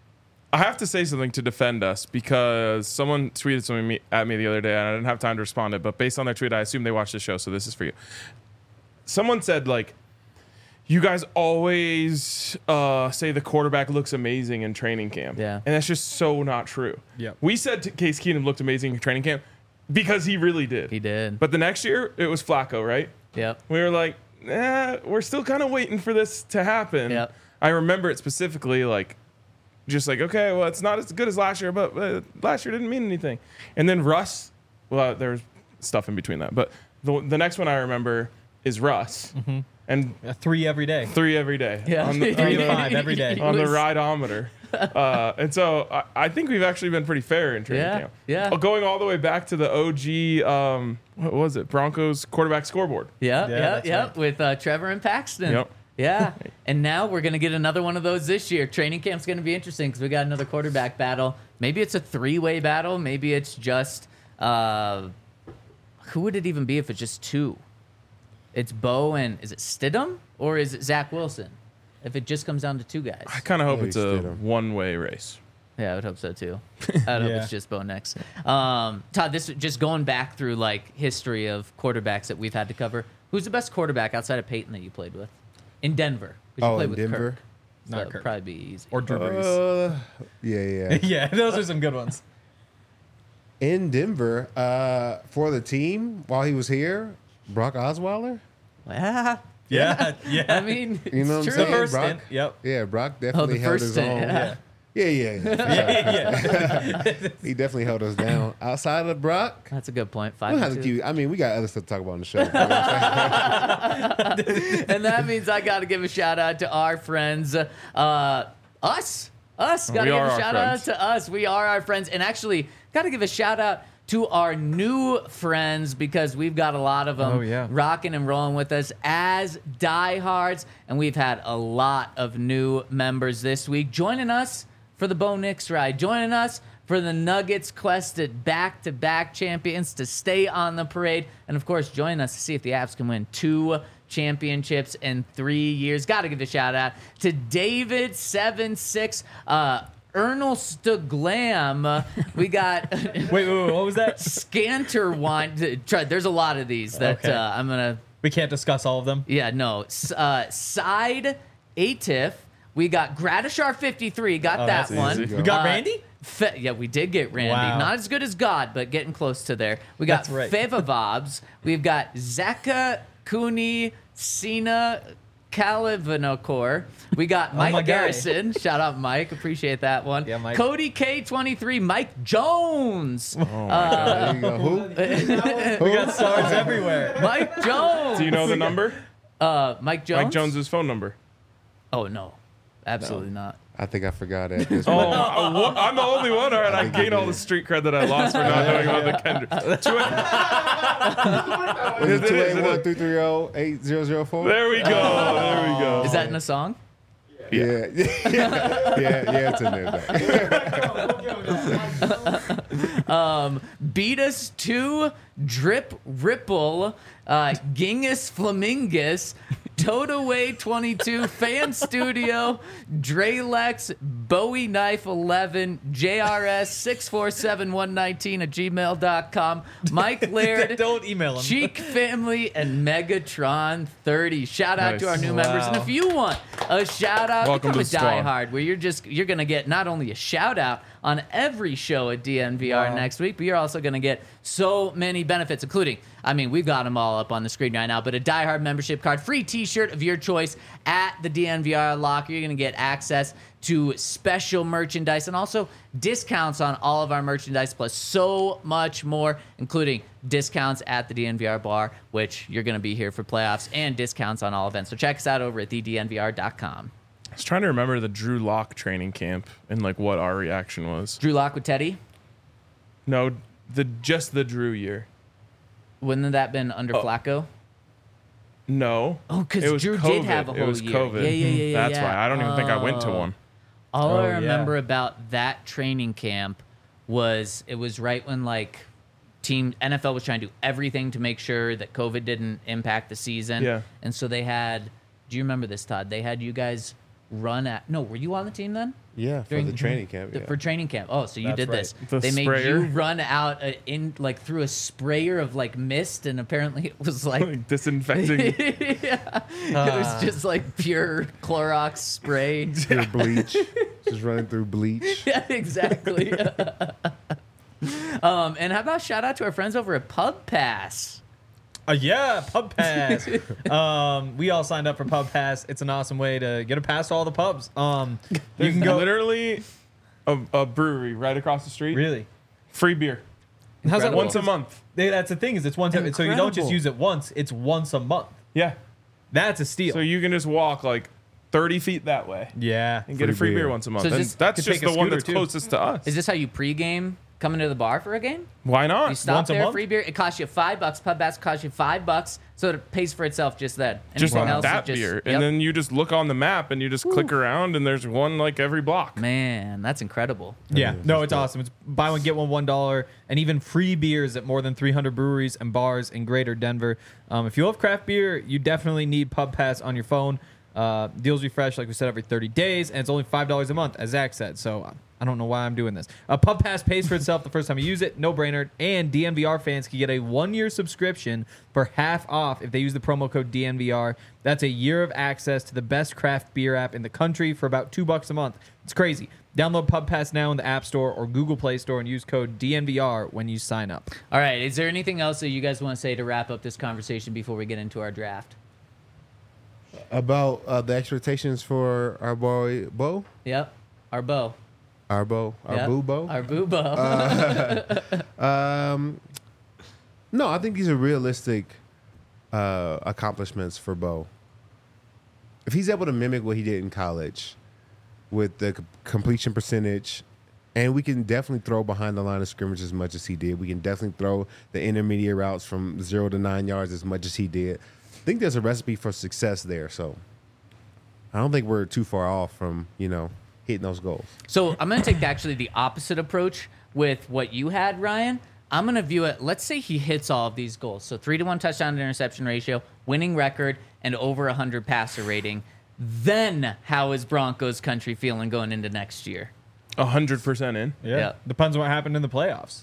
I have to say something to defend us because someone tweeted something at me the other day and I didn't have time to respond to it, but based on their tweet, I assume they watched the show, so this is for you. Someone said, like, you guys always say the quarterback looks amazing in training camp. Yeah. And that's just so not true. Yep. We said Case Keenum looked amazing in training camp because he really did. He did. But the next year, it was Flacco, right? Yep. We were like, we're still kind of waiting for this to happen. Yep. I remember it specifically, like, just like, okay, well, it's not as good as last year, but last year didn't mean anything. And then Russ, well, there's stuff in between that. But the next one I remember is Russ. Mm-hmm. And 3 every day. 3 every day. Yeah. On the, 3 to 5 every day. on the rideometer. And so I think we've actually been pretty fair in training camp. Yeah. Going all the way back to the OG, what was it? Broncos quarterback scoreboard. Yeah, that's right. with Trevor and Paxton. Yep. Yeah, and now we're going to get another one of those this year. Training camp's going to be interesting because we got another quarterback battle. Maybe it's a 3-way battle. Maybe it's just, who would it even be if it's just 2? It's Bo and, is it Stidham or is it Zach Wilson? If it just comes down to 2 guys. I kind of hope Yeah, it's he a stood him. one-way race. Yeah, I would hope so too. I hope Yeah. it's just Bo next. Todd, this just going back through like history of quarterbacks that we've had to cover. Who's the best quarterback outside of Peyton that you played with? In Denver. 'Cause you Oh, played in with Denver? Kirk. So Not it'd Kirk. probably be easy. Or Drew Brees. Yeah. Yeah, those are some good ones. In Denver, for the team while he was here, Brock Osweiler. Yeah. Yeah, yeah. I mean, You know it's what true. I'm the saying? first Brock? stint. Yep. Yeah, Brock Oh, definitely the held first his stint, own. yeah. Yeah. He definitely held us down. Outside of Brock, That's a good point. we don't have to 5-2. keep. I mean, we got other stuff to talk about on the show. And that means I got to give a shout out to our friends, us. Got to give are a our shout friends. out to us. We are our friends, and actually got to give a shout out to our new friends because we've got a lot of them Oh, yeah. rocking and rolling with us as diehards, and we've had a lot of new members this week joining us for the Bo Nix ride, joining us for the Nuggets quest at back-to-back champions to stay on the parade, and of course, join us to see if the Avs can win 2 championships in 3 years. Got to give a shout out to David76, Ernest Glam. We got Wait, what was that? Scanter Wine. There's a lot of these that Okay. I'm gonna. We can't discuss all of them. Yeah, no. Side Atif. We got Gratishar 53. Got that that's one. easy. We got Randy? Yeah, we did get Randy. Wow. Not as good as God, but getting close to there. We got That's right. Fevavobs. We've got Zeka Cooney Sina Kalivanokor. We got Mike my guy. Garrison. Shout out Mike. Appreciate that one. Yeah, Mike. Cody K23. Mike Jones. There you go. Who? We got stars everywhere. Mike Jones. Do you know the number? Mike Jones? Mike Jones's phone number. Oh, no. Absolutely not. I think I forgot it. This Oh, point. I'm the only one. All right, I think you gained all did. the street cred that I lost for not knowing about the Kendrick. Is it It is, it 281-330-8004? There we go. There we go. Is that in a song? Yeah. Yeah, it's in there. Beat us to Drip Ripple, Gingus Flamingus, Totaway 22, Fan Studio, Drelex, Bowie Knife 11, JRS 647119 at gmail.com, Mike Laird, Don't email him. Cheek Family, and Megatron 30. Shout out to our Nice. new members. And Wow. if you want a shout out, Welcome become a to the squad. diehard where you're gonna get not only a shout out on every show at DNVR Wow. next week, but you're also gonna get so many benefits, including, I mean, we've got them all up on the screen right now, but a diehard membership card, free t-shirt of your choice at the DNVR locker. You're gonna get access to special merchandise and also discounts on all of our merchandise, plus so much more, including discounts at the DNVR bar, which you're going to be here for playoffs, and discounts on all events. So check us out over at thednvr.com. I was trying to remember the Drew Lock training camp and like what our reaction was. Drew Lock with Teddy. No, just the Drew year. Wouldn't that been under Flacco? No. Oh, 'cause It was Drew did COVID. have a It whole was year. COVID. Yeah, That's yeah. why. I don't even think I went to one. All I Oh, yeah. remember about that training camp was it was right when like team NFL was trying to do everything to make sure that COVID didn't impact the season. Yeah. And so they had, do you remember this, Todd? They had you guys run at. No, were you on the team then? Yeah, for the training camp. Yeah. For training camp. Oh, so you That's did right. this. The They made sprayer? you run out in like through a sprayer of like mist, and apparently it was like Like disinfecting. yeah, it was just like pure Clorox spray. Pure bleach. Just running through bleach. Yeah, exactly. And how about shout out to our friends over at Pub Pass? Yeah, Pub Pass. We all signed up for Pub Pass. It's an awesome way to get a pass to all the pubs. You There's can go. literally a brewery right across the street. Really? Free beer. How's that Once a work? month. That's the thing is it's one time. So you don't just Incredible. use it once. It's once a month. Yeah. That's a steal. So you can just walk like 30 feet that way yeah. and get a Free free beer beer. once a month. So is And this- that's could just take a the one scooter, that's too. closest to us. Is this how you pregame coming to the bar for a game? Why You not? stop Once a there, month? free beer. It costs you $5. Pub Pass costs you $5, so it pays for itself just then. Just Anything on else that is just, beer. Yep. And then you just look on the map and you just click around and there's one like every block. Man, that's incredible. Yeah, Yeah, no, that's it's dope. awesome. It's buy one get one $1, and even free beers at more than 300 breweries and bars in Greater Denver. If you love craft beer, you definitely need Pub Pass on your phone. Deals refresh, like we said, every 30 days, and it's only $5 a month, as Zach said. So I don't know why I'm doing this. Pub Pass pays for itself the first time you use it, no brainer. And DNVR fans can get a 1-year subscription for half off if they use the promo code DNVR. That's a year of access to the best craft beer app in the country for about $2 a month. It's crazy. Download Pub Pass now in the App Store or Google Play Store and use code DNVR when you sign up. All right, is there anything else that you guys want to say to wrap up this conversation before we get into our draft? About the expectations for our boy Bo, Yep, our Bo. our Bo, our Yep. boo Bo. Our Boo Bo. No, I think these are realistic accomplishments for Bo. If he's able to mimic what he did in college with the completion percentage, and we can definitely throw behind the line of scrimmage as much as he did. We can definitely throw the intermediate routes from 0 to 9 yards as much as he did. I think there's a recipe for success there. So I don't think we're too far off from, hitting those goals. So I'm going to take actually the opposite approach with what you had, Ryan. I'm going to view it, let's say he hits all of these goals. So 3-to-1 touchdown to interception ratio, winning record, and over 100 passer rating. Then how is Broncos country feeling going into next year? 100% in. Yeah. Depends on what happened in the playoffs.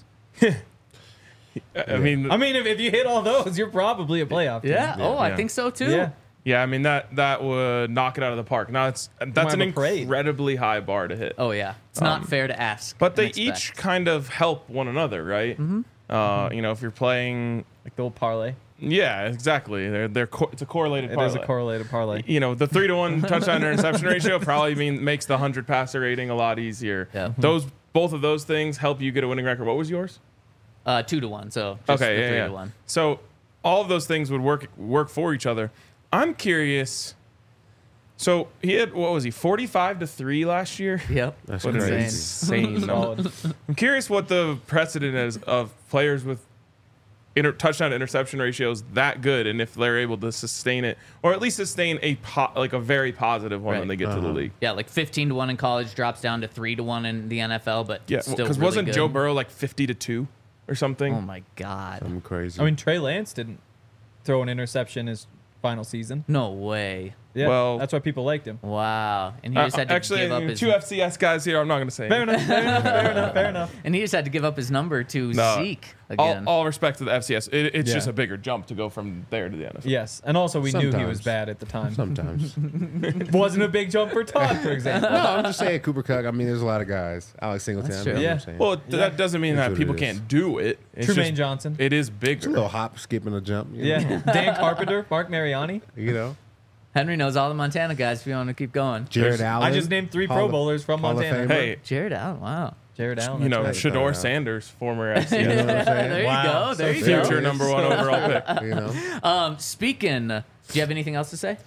I mean, If you hit all those, you're probably a playoff team. Yeah. Oh, I Yeah. think so too. Yeah. yeah, I mean that would knock it out of the park. Now that's an have a parade. incredibly high bar to hit. Oh, yeah. It's not fair to ask. But they and each expect. kind of help one another, right? Mm-hmm. If you're playing, Like the old parlay. yeah, exactly. It's a correlated It parlay. is a correlated parlay. The 3-to-1 touchdown to interception ratio probably makes the 100 passer rating a lot easier. Yeah. Both of those things help you get a winning record. What was yours? 2-to-1. So just Okay, the yeah. 3-to-1. So all of those things would work for each other. I'm curious. So he had 45-3 last year. Yep. That's What an crazy. insane number. Solid. I'm curious what the precedent is of players with touchdown to interception ratios that good, and if they're able to sustain it, or at least sustain a very positive one when Right. they get to the league. Yeah, like 15-to-1 in college drops down to 3-to-1 in the NFL, but Yeah, still because really wasn't good. Joe Burrow like 50-2 or something? Oh my God. I'm crazy. I mean, Trey Lance didn't throw an interception his final season. No way. Yeah, Well- that's why people liked him. Wow. And he just had to Actually, give up his two FCS guys here. I'm not going to say Fair anything. enough. Fair enough. Fair enough. Fair enough. and he just had to give up his number to No. Zeke again. All respect to the FCS. It's Yeah. just a bigger jump to go from there to the NFL. Yes, and also we knew he was Sometimes. bad at the time. Sometimes. Wasn't a big jump for Todd, for example. No, I'm just saying Cooper Kupp. I mean, there's a lot of guys. Alex Singleton. That's I mean, true. I'm Yeah. saying. Well, that doesn't mean That's that what people it is. can't do it. It's Trumaine just- Johnson. It is a bigger. little hop, skip, and a jump. Yeah. Dan Carpenter, Mark Mariani. Henry knows all the Montana guys if you want to keep going. Jared Allen. I just named 3 Hall Pro of- Bowlers from Hall of Montana. Famer. Hey, Jared Allen, wow. Jared Allen. that's right. Shador right. Sanders, former You FCS. know what I'm saying? There you Wow. go. There So you fair. go. Future number 1 overall pick. You know? Speaking, do you have anything else to say?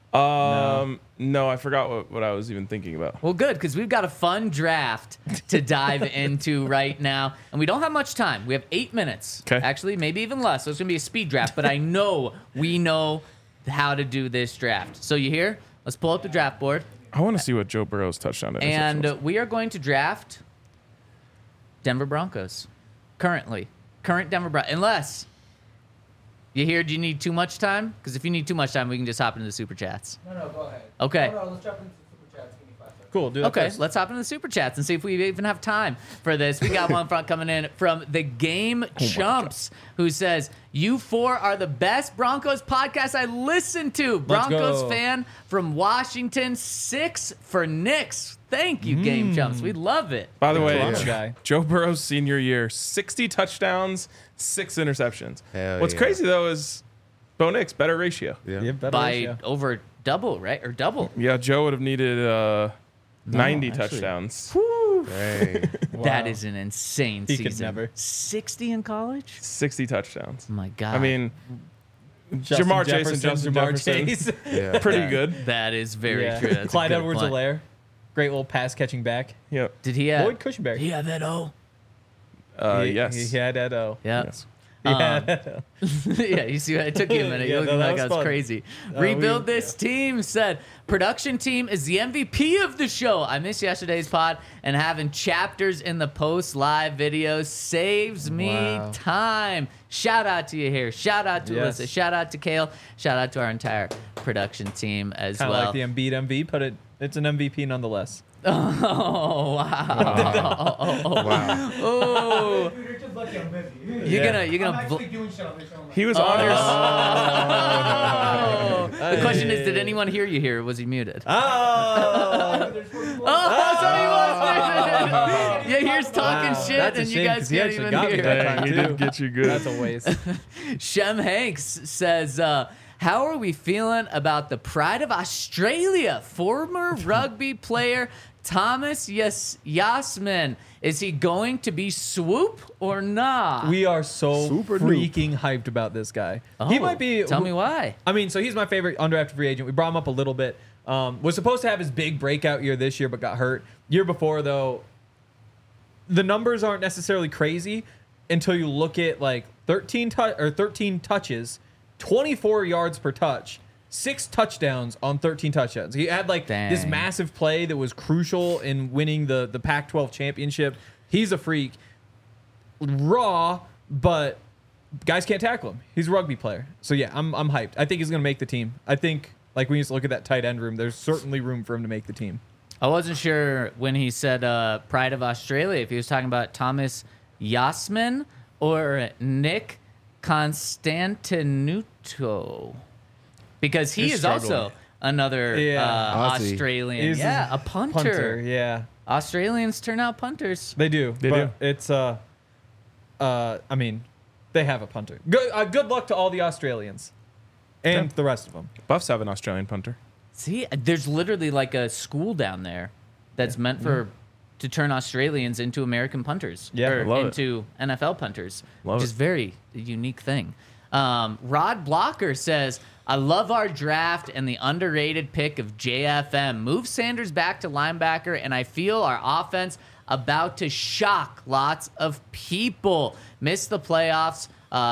No, I forgot what I was even thinking about. Well, good, because we've got a fun draft to dive into right now. And we don't have much time. We have 8 minutes. 'Kay. Actually, maybe even less. So it's going to be a speed draft. But I know we know how to do this draft. So you hear? Let's pull up the draft board. I want to see what Joe Burrow's touchdown interception And was. we are going to draft Denver Broncos. Current Denver Broncos. Unless you hear, do you need too much time? Because if you need too much time, we can just hop into the super chats. No, go ahead. Okay. No, let's jump into the super Cool. Do that Okay, first. let's hop into the super chats and see if we even have time for this. We got one front coming in from the Game Chumps, who says, "You four are the best Broncos podcast I listen to. Broncos go. fan from Washington, 6 for Knicks. Thank you, Game Chumps. We love it." By the way, Toronto guy. Joe Burrow's senior year, 60 touchdowns, 6 interceptions. Hell What's yeah. crazy though is Bo Nix better ratio. Yeah. Yeah, better By ratio. over double, right? Or double. Yeah, Joe would have needed 90 actually. touchdowns. Dang. That is an insane He season. could never. 60 in college? 60 touchdowns. Oh my God. I mean, Justin Jamar Chase and Jefferson, Justin Jamar Jefferson. Chase. Yeah. pretty good. that is very Yeah. true. That's a Clyde good Edwards point. Alaire. Great little pass catching back. Yep. Did he have? Lloyd Cushenberry. Did he have that O? Yes. He had that O. Yeah. Yes. Yeah. Yeah, you see, it took you a minute. Yeah, You looked no, that like was I was fun. crazy. we- Rebuild this team said, production team is the MVP of the show. I missed yesterday's pod, and having chapters in the post live videos saves me Wow. time. Shout out to you here. Shout out to Yes. Alyssa. Shout out to Kale. Shout out to our entire production team as Kind of well. like the Embiid MV, but it's an MVP nonetheless. Oh wow! Wow. Oh, You're just lucky I'm busy. you're gonna I'm bl- actually doing shit on this show. He was on your Oh. The question is, did anyone hear you here? Or was he muted? Oh, Oh, so he was muted. Yeah, here's talking Wow. shit, That's a and you shame, guys 'cause he can't actually even got me hear. that Dang, time, he too. did get you good. that's a waste. Shem Hanks says, how are we feeling about the pride of Australia? Former rugby player Thomas Yasmin. Is he going to be swoop or not? We are so Super freaking hyped about this guy. He might be. Tell me why. I mean, so he's my favorite undrafted free agent. We brought him up a little bit. Was supposed to have his big breakout year this year, but got hurt. Year before, though, the numbers aren't necessarily crazy until you look at like 13 touches, 24 yards per touch, 6 touchdowns on 13 touchdowns. He had like this Dang. massive play that was crucial in winning the Pac-12 championship. He's a freak. Raw, but guys can't tackle him. He's a rugby player. So yeah, I'm hyped. I think he's gonna make the team. I think like when you just look at that tight end room, there's certainly room for him to make the team. I wasn't sure when he said pride of Australia if he was talking about Thomas Yasmin or Nick Constantinuto. Because he He's is also struggling. another Yeah. Aussie. Australian. He's Yeah, a punter. Yeah, Australians turn out punters. they do. They but It's I mean, they have a punter. Good luck to all the Australians and the rest of them. Buffs have an Australian punter. See, there's literally like a school down there that's meant for to turn Australians into American punters. Yeah, or love it. into NFL punters, Love which it. is very unique thing. Rod Blocker says, I love our draft and the underrated pick of JFM. Move Sanders back to linebacker, and I feel our offense about to shock lots of people. Missed the playoffs.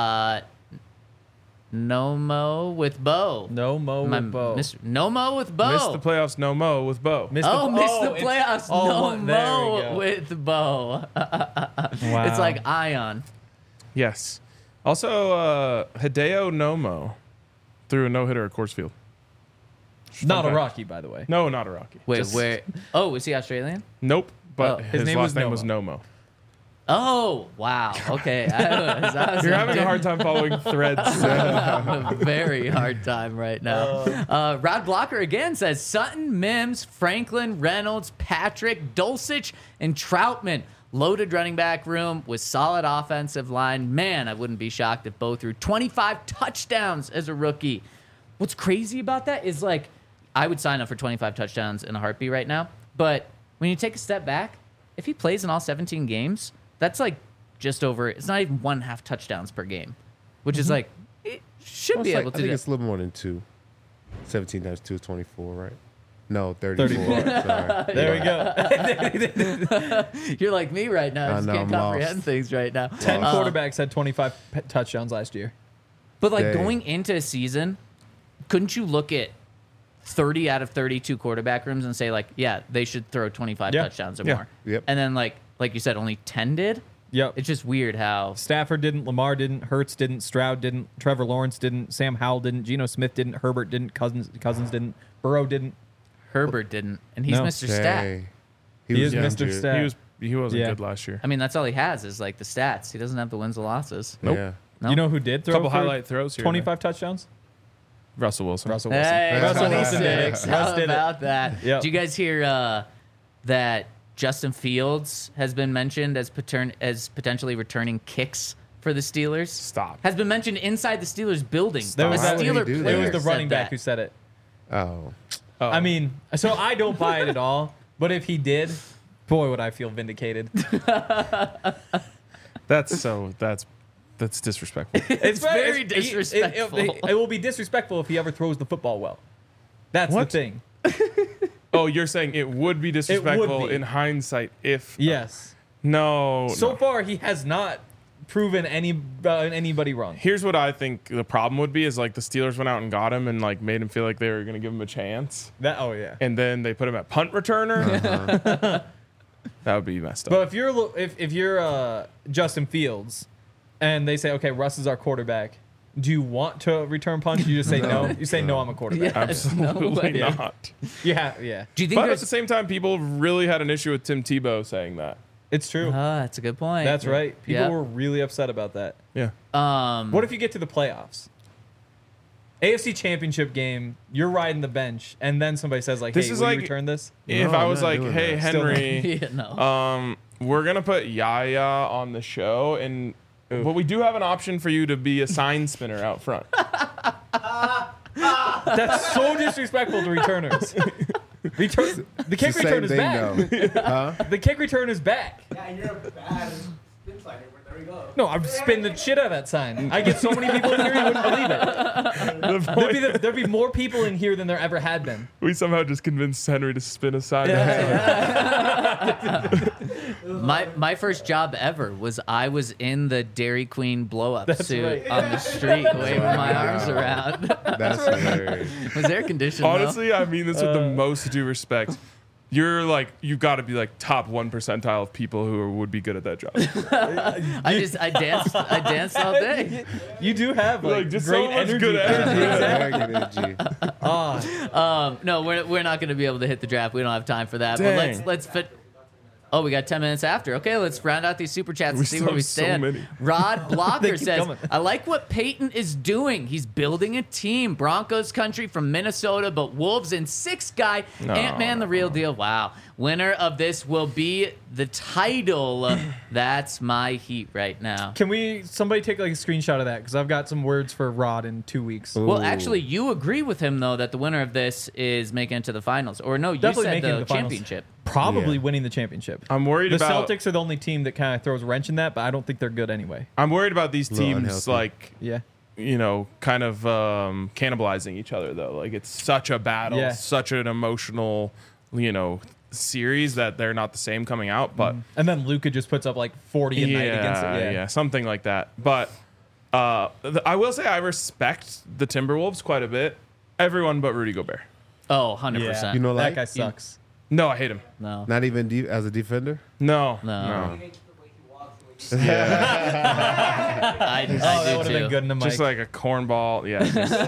No Mo with Bo. No Mo My- with Bo. No Mo with Bo. Missed the playoffs, no Mo with Bo. Missed Oh, missed the it's- playoffs. oh, No what- there we Mo go. with Bo. Wow. It's like Ion. Yes. Also, Hideo Nomo threw a no-hitter at Coors Field. not a fact. Rocky, by the way. No, not a Rocky. Wait, Just- where? Oh, is he Australian? Nope. But Oh. his name last was name Nomo. was Nomo. Oh, wow. Okay. I was You're having a hard time following threads. having a very hard time right now. Rod Blocker again says Sutton, Mims, Franklin, Reynolds, Patrick, Dulcich, and Troutman. Loaded running back room with solid offensive line. Man, I wouldn't be shocked if Bo threw 25 touchdowns as a rookie. What's crazy about that is like, I would sign up for 25 touchdowns in a heartbeat right now. But when you take a step back, if he plays in all 17 games, that's like just over, it's not even 1/2 touchdowns per game, which is like, it should Well, be it's able like- I to think do. it's a little more than 2. 17 times 2 is 24, right? No, 34. Sorry. There we go. You're like me right now. I I just know, can't I'm comprehend lost. things right now. 10 quarterbacks had 25 touchdowns last year. But like Dang. going into a season, couldn't you look at 30 out of 32 quarterback rooms and say like, yeah, they should throw 25 Yeah. touchdowns or Yeah. more? Yep. And then like you said, only 10 did. Yep. It's just weird how. Stafford didn't, Lamar didn't, Hurts didn't, Stroud didn't, Trevor Lawrence didn't, Sam Howell didn't, Geno Smith didn't, Herbert didn't, Cousins didn't, Burrow didn't. Herbert didn't, and he's No. Mr. Stat. Dang. He is injured. Mr. Stat. He wasn't Yeah. good last year. I mean, that's all he has is like the stats. He doesn't have the wins or losses. Nope. Yeah. No? You know who did throw Couple for highlight throws here. 25 touchdowns? Russell Wilson. Russell Wilson. Hey, Russell Wilson did it. 26. Russ How did it. about that? Yep. Did you guys hear that Justin Fields has been mentioned as potentially returning kicks for the Steelers? Stop. Has been mentioned inside the Steelers building. There A was Why would he Steeler do that? player It was the said running back that. who said it. Oh. Oh. I mean, so I don't buy it at all. But if he did, boy, would I feel vindicated. That's disrespectful. It's very It, disrespectful. will be disrespectful if he ever throws the football well. That's What? the thing. Oh, you're saying it would be disrespectful be. in hindsight if Yes. no. So no. far, he has not proven anybody wrong. Here's what I think the problem would be is like the Steelers went out and got him and like made him feel like they were gonna give him a chance, Oh yeah. and then they put him at punt returner. That would be messed up. But if you're Justin Fields, and they say, okay, Russ is our quarterback, do you want to return punch? You just say no. You say no. I'm a quarterback. Yes, no Absolutely way. not. Yeah. Do you think But at there's the same time, people really had an issue with Tim Tebow saying that. It's true. that's a good point. That's right. People Yeah. were really upset about that. Yeah. What if you get to the playoffs? AFC Championship game, you're riding the bench, and then somebody says like, This "Hey, is will you like- return this?" If No, I I'm was not like, doing hey, that. Still Henry, yeah, no. we're going to put Yaya on the show, and but we do have an option for you to be a sign spinner out front. That's so disrespectful to returners. The kick It's the return same is back. thing, though. Huh? The kick return is back. Yeah, you're a bad spin fighter, but there we go. No, I'm spinning the shit out of that sign. I get so many people in here, you wouldn't believe it. The point- There'd be more people in here than there ever had been. we somehow just convinced Henry to spin a sign. My first job ever was I was in the Dairy Queen blow up suit right. on the street waving my arms around. That's hilarious. It was air conditioned. Honestly, I mean this with the most due respect. You're like, you've got to be like top 1 percentile of people who would be good at that job. I danced all day. You do have like, Just great so much energy. good energy. Very good energy. No, we're not going to be able to hit the draft. We don't have time for that. Dang. But let's fit. Oh, we got 10 minutes after. Okay, let's round out these super chats We and see still where we have so stand. many. Rod They Blocker keep says, coming. I like what Peyton is doing. He's building a team. Broncos country from Minnesota, but Wolves in 6 guy. Ant-Man the real deal. Wow. Winner of this will be the title. That's my heat right now. Can somebody take like a screenshot of that? Because I've got some words for Rod in 2 weeks. Well, Ooh. actually, you agree with him, though, that the winner of this is making it to the finals. Or no, you Definitely said making the the finals. championship. Probably Yeah. winning the championship. I'm worried The about Celtics are the only team that kind of throws a wrench in that, but I don't think they're good anyway. I'm worried about these Little teams unhealthy. like Yeah. kind of cannibalizing each other though. Like it's such a battle, Yeah. such an emotional, series that they're not the same coming out, but And then Luka just puts up like 40 a night against it. yeah, something like that. But I will say I respect the Timberwolves quite a bit. Everyone but Rudy Gobert. Oh, 100%. You know, that like guy sucks. No, I hate him. No. not even as a defender. No, No. He hates the way he walks, the way he I Oh, do that would have too. been good in the mic. Just like a cornball. Yeah.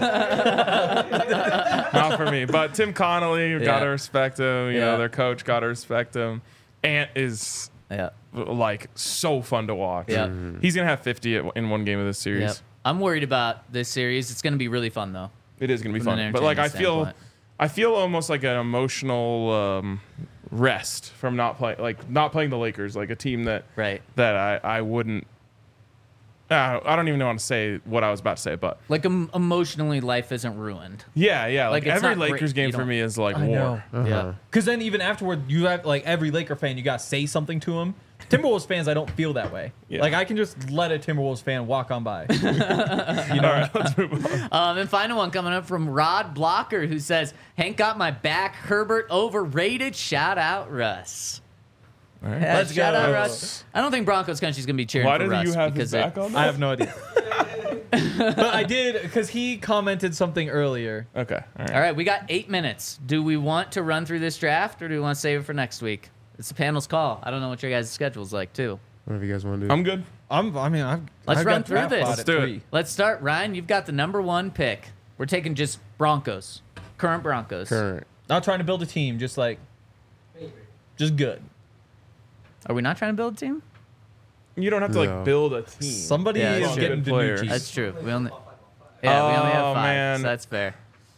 Not for me. But Tim Connolly, gotta Yeah. respect him. You Yeah. know, their coach, gotta respect him. Ant is Yeah. like so fun to watch. Yeah. He's gonna have 50 in one game of this series. Yep. I'm worried about this series. It's going to be really fun, though. It is gonna be From an fun. But like entertainment I feel almost like an emotional rest from not playing the Lakers, like a team that Right. I wouldn't. I don't even want to say what I was about to say, but Like, emotionally, life isn't ruined. yeah. Like, Like it's every not great. Lakers game You for don't- me is like I war. know. Yeah. Because then even afterward, you have like every Laker fan, you got to say something to him. Timberwolves fans, I don't feel that way. Yeah. Like I can just let a Timberwolves fan walk on by. All right, let's move on. And final one coming up from Rod Blocker, who says, Hank got my back. Herbert overrated. Shout out, Russ. All right. Yeah, Let's shout go. out, Russ. I don't think Broncos country's going to be cheering Why for did Russ. you have because his back on? I have no idea. But I did because he commented something earlier. Okay. All right. All right, we got 8 minutes. Do we want to run through this draft, or do we want to save it for next week? It's the panel's call. I don't know what your guys' schedule's like, too. Whatever you guys want to do. I'm good. I've Let's run got through draft this. pod Let's at do it. 3. Let's start. Ryan, you've got the number 1 pick. We're taking just Broncos. Current Broncos. Current. Not trying to build a team, just like, just good. Are we not trying to build a team? You don't have to No. like build a team. Somebody Yeah, is that's getting true. Players. Danucci's. That's true. We only have Oh, 5. man. So that's fair.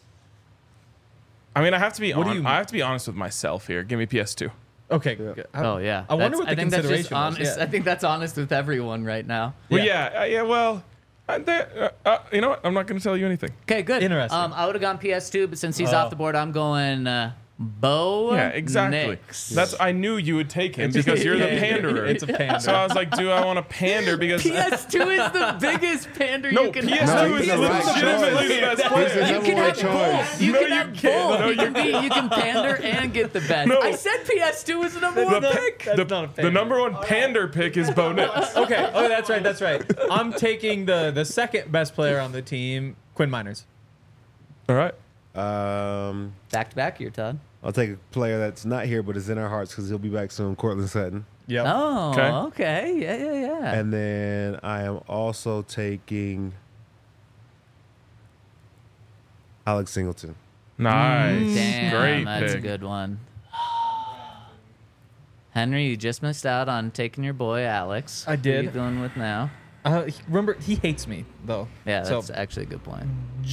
I mean, I have to be What do you- I have to be honest with myself here. Give me PS2. Okay. Good. Oh yeah. I wonder That's- what the I think that's just consideration was, honest. yeah. I think that's honest with everyone right now. Well, yeah. Well, you know what? I'm not going to tell you anything. Okay, good. Interesting. I would have gone PS2, but since he's Oh. off the board, I'm going Bo. Yeah, exactly. Nix. That's I knew you would take him because you're the panderer. It's a pander. So I was like, do I want to pander because PS2 is the biggest pander no, you can PS2 have. No, is he's the right legitimately the choice. best He's the player. You number can one have choice. both. You No, can you have can't. both. No, You can pander and get the best. No. I said PS2 was the number one The, pick. That's not a the pander. number one pander pick is Bo Nix. Okay. Oh, that's right. That's right. I'm taking the second best player on the team, Quinn Miners. All right. Back to back here, Todd. I'll take a player that's not here but is in our hearts because he'll be back soon. Cortland Sutton. Yep. Oh, Okay. okay. Yeah. And then I am also taking Alex Singleton. Nice. Damn, Great that's pick. a good one. Henry, you just missed out on taking your boy Alex. I did. Who are you going with now? Remember, he hates me though. Yeah, So- that's actually a good point.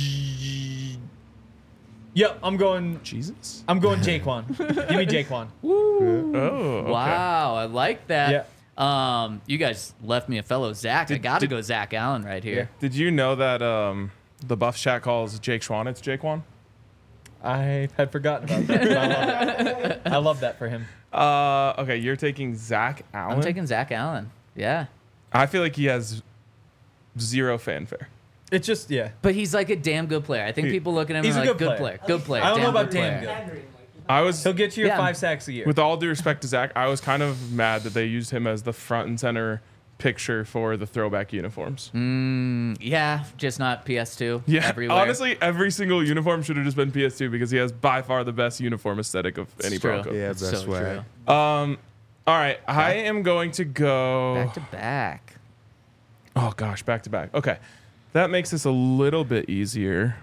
Yep. I'm going Jesus. Jaquan. Give me Jaquan. Oh, okay. Wow, I like that. Yeah. You guys left me a fellow Zach. I got to go Zach Allen right here. Did you know that the Buff chat calls Jake Schwan? It's Jaquan. I had forgotten about that. But I love it. I love that for him. Okay, you're taking Zach Allen. I'm taking Zach Allen. Yeah. I feel like he has zero fanfare. It's just But he's like a damn good player. I think people look at him He's and a like, good good player. player. Good player. I don't know about good damn player. good. Pandering, like, I was, He'll get you Yeah. 5 sacks a year. with all due respect to Zach, I was kind of mad that they used him as the front and center picture for the throwback uniforms. Yeah, just not PS2. Yeah, everywhere. honestly, every single uniform should have just been PS2 because he has by far the best uniform aesthetic of any It's true. Bronco. Yeah, It's best so swag. true. All right, I am going to go. Back to back. Oh gosh, back to back. Okay, that makes this a little bit easier.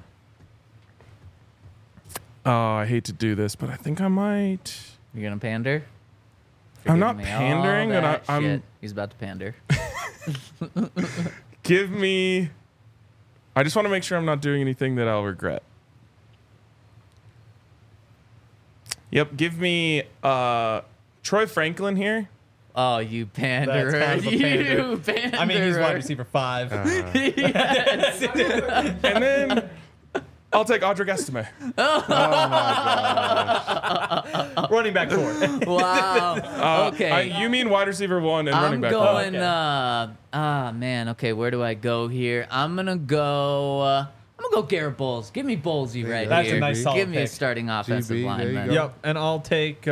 Oh, I hate to do this, but I think I might. You're gonna pander? I'm Forgiving not me all pandering, but that I'm. shit. He's about to pander. Give me. I just want to make sure I'm not doing anything that I'll regret. Yep, give me Troy Franklin here. Oh, you panderer! That's kind of a You panderer! I mean, he's wide receiver 5. And then I'll take Audric Estime. Running back 4. Wow. Okay. You mean wide receiver 1 and running I'm back going. 1. Man. Okay, where do I go here? I'm gonna go Garrett Bowles. Give me Bowlesy right That's a here. nice solid Give me a pick. starting offensive there you lineman. go. Yep, and I'll take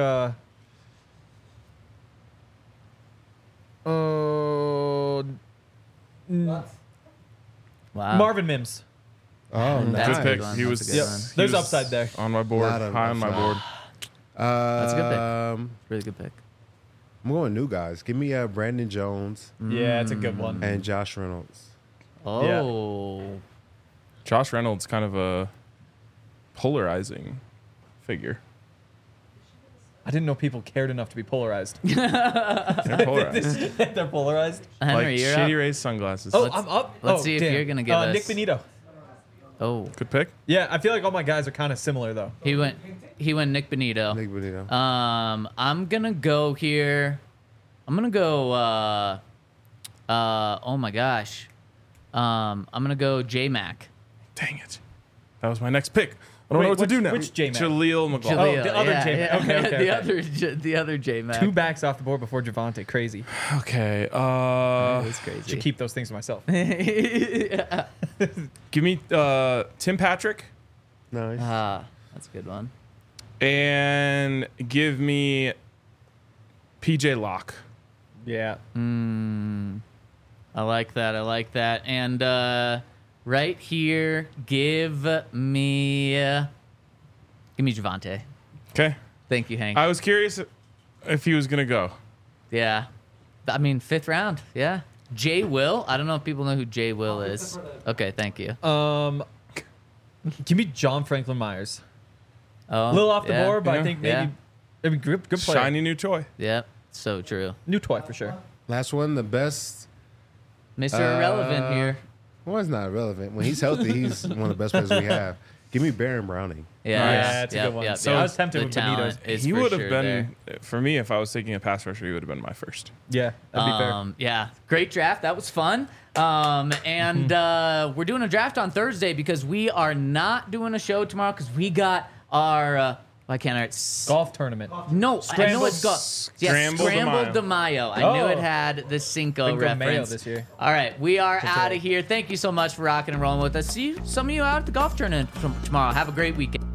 Wow. Marvin Mims. Oh, That's nice. a Good pick. one. He That's was. a good one. he There's was upside there. On my board. Lot of High on my upside. board. That's a good pick. Um, Really good pick. I'm going new guys. Give me Brandon Jones Yeah, it's a good one. and Josh Reynolds. Oh. Josh Reynolds, kind of a polarizing figure. I didn't know people cared enough to be polarized. They're polarized. They're polarized. Henry, Like you're Shady up. Ray's sunglasses. Oh, Let's- I'm up. let's Oh, see if damn. you're gonna give us- Nick Benito. Oh. Good pick. Yeah, I feel like all my guys are kind of similar though. He went Nick Benito. Nick Benito. I'm gonna go here. I'm gonna go oh my gosh. I'm gonna go J Mac. Dang it. That was my next pick. I don't know what to do now. which J-Mac? Jaleel McLaughlin. Oh, the other J-Mac. Okay, okay, The other J Mac. 2 backs off the board before Javante. Crazy. Okay. That's crazy. Should keep those things to myself. Give me Tim Patrick Nice. That's a good one. and give me PJ Locke. Yeah. I like that. I like that. And right here, give me Javante. Okay. Thank you, Hank. I was curious if he was going to go. Yeah. I mean, 5th round. Yeah. Jay Will. I don't know if people know who Jay Will is. Okay, thank you. Give me John Franklin Myers. Oh, A little off the yeah. board, but Yeah. I think Yeah. maybe good player. Shiny new toy. Yep, so true. New toy for sure. Last one, the best. Mr. Irrelevant here. Well, it's not irrelevant. When he's healthy, he's one of the best players we have. Give me Baron Browning. Yeah, Yeah, it's a good one. So I was tempted the with Benito's. talent is He for would have sure been there. for me if I was taking a pass rusher. He would have been my first. Yeah, that'd be fair. Yeah, great draft. That was fun. And we're doing a draft on Thursday because we are not doing a show tomorrow because we got our. Why can't I? Golf tournament. No, I know it's got Scramble de Scrambled de Mayo. I knew Oh. it had the Cinco Cinco de Mayo reference this year. All right, we are That's out it. of here. Thank you so much for rocking and rolling with us. See some of you out at the golf tournament tomorrow. Have a great weekend.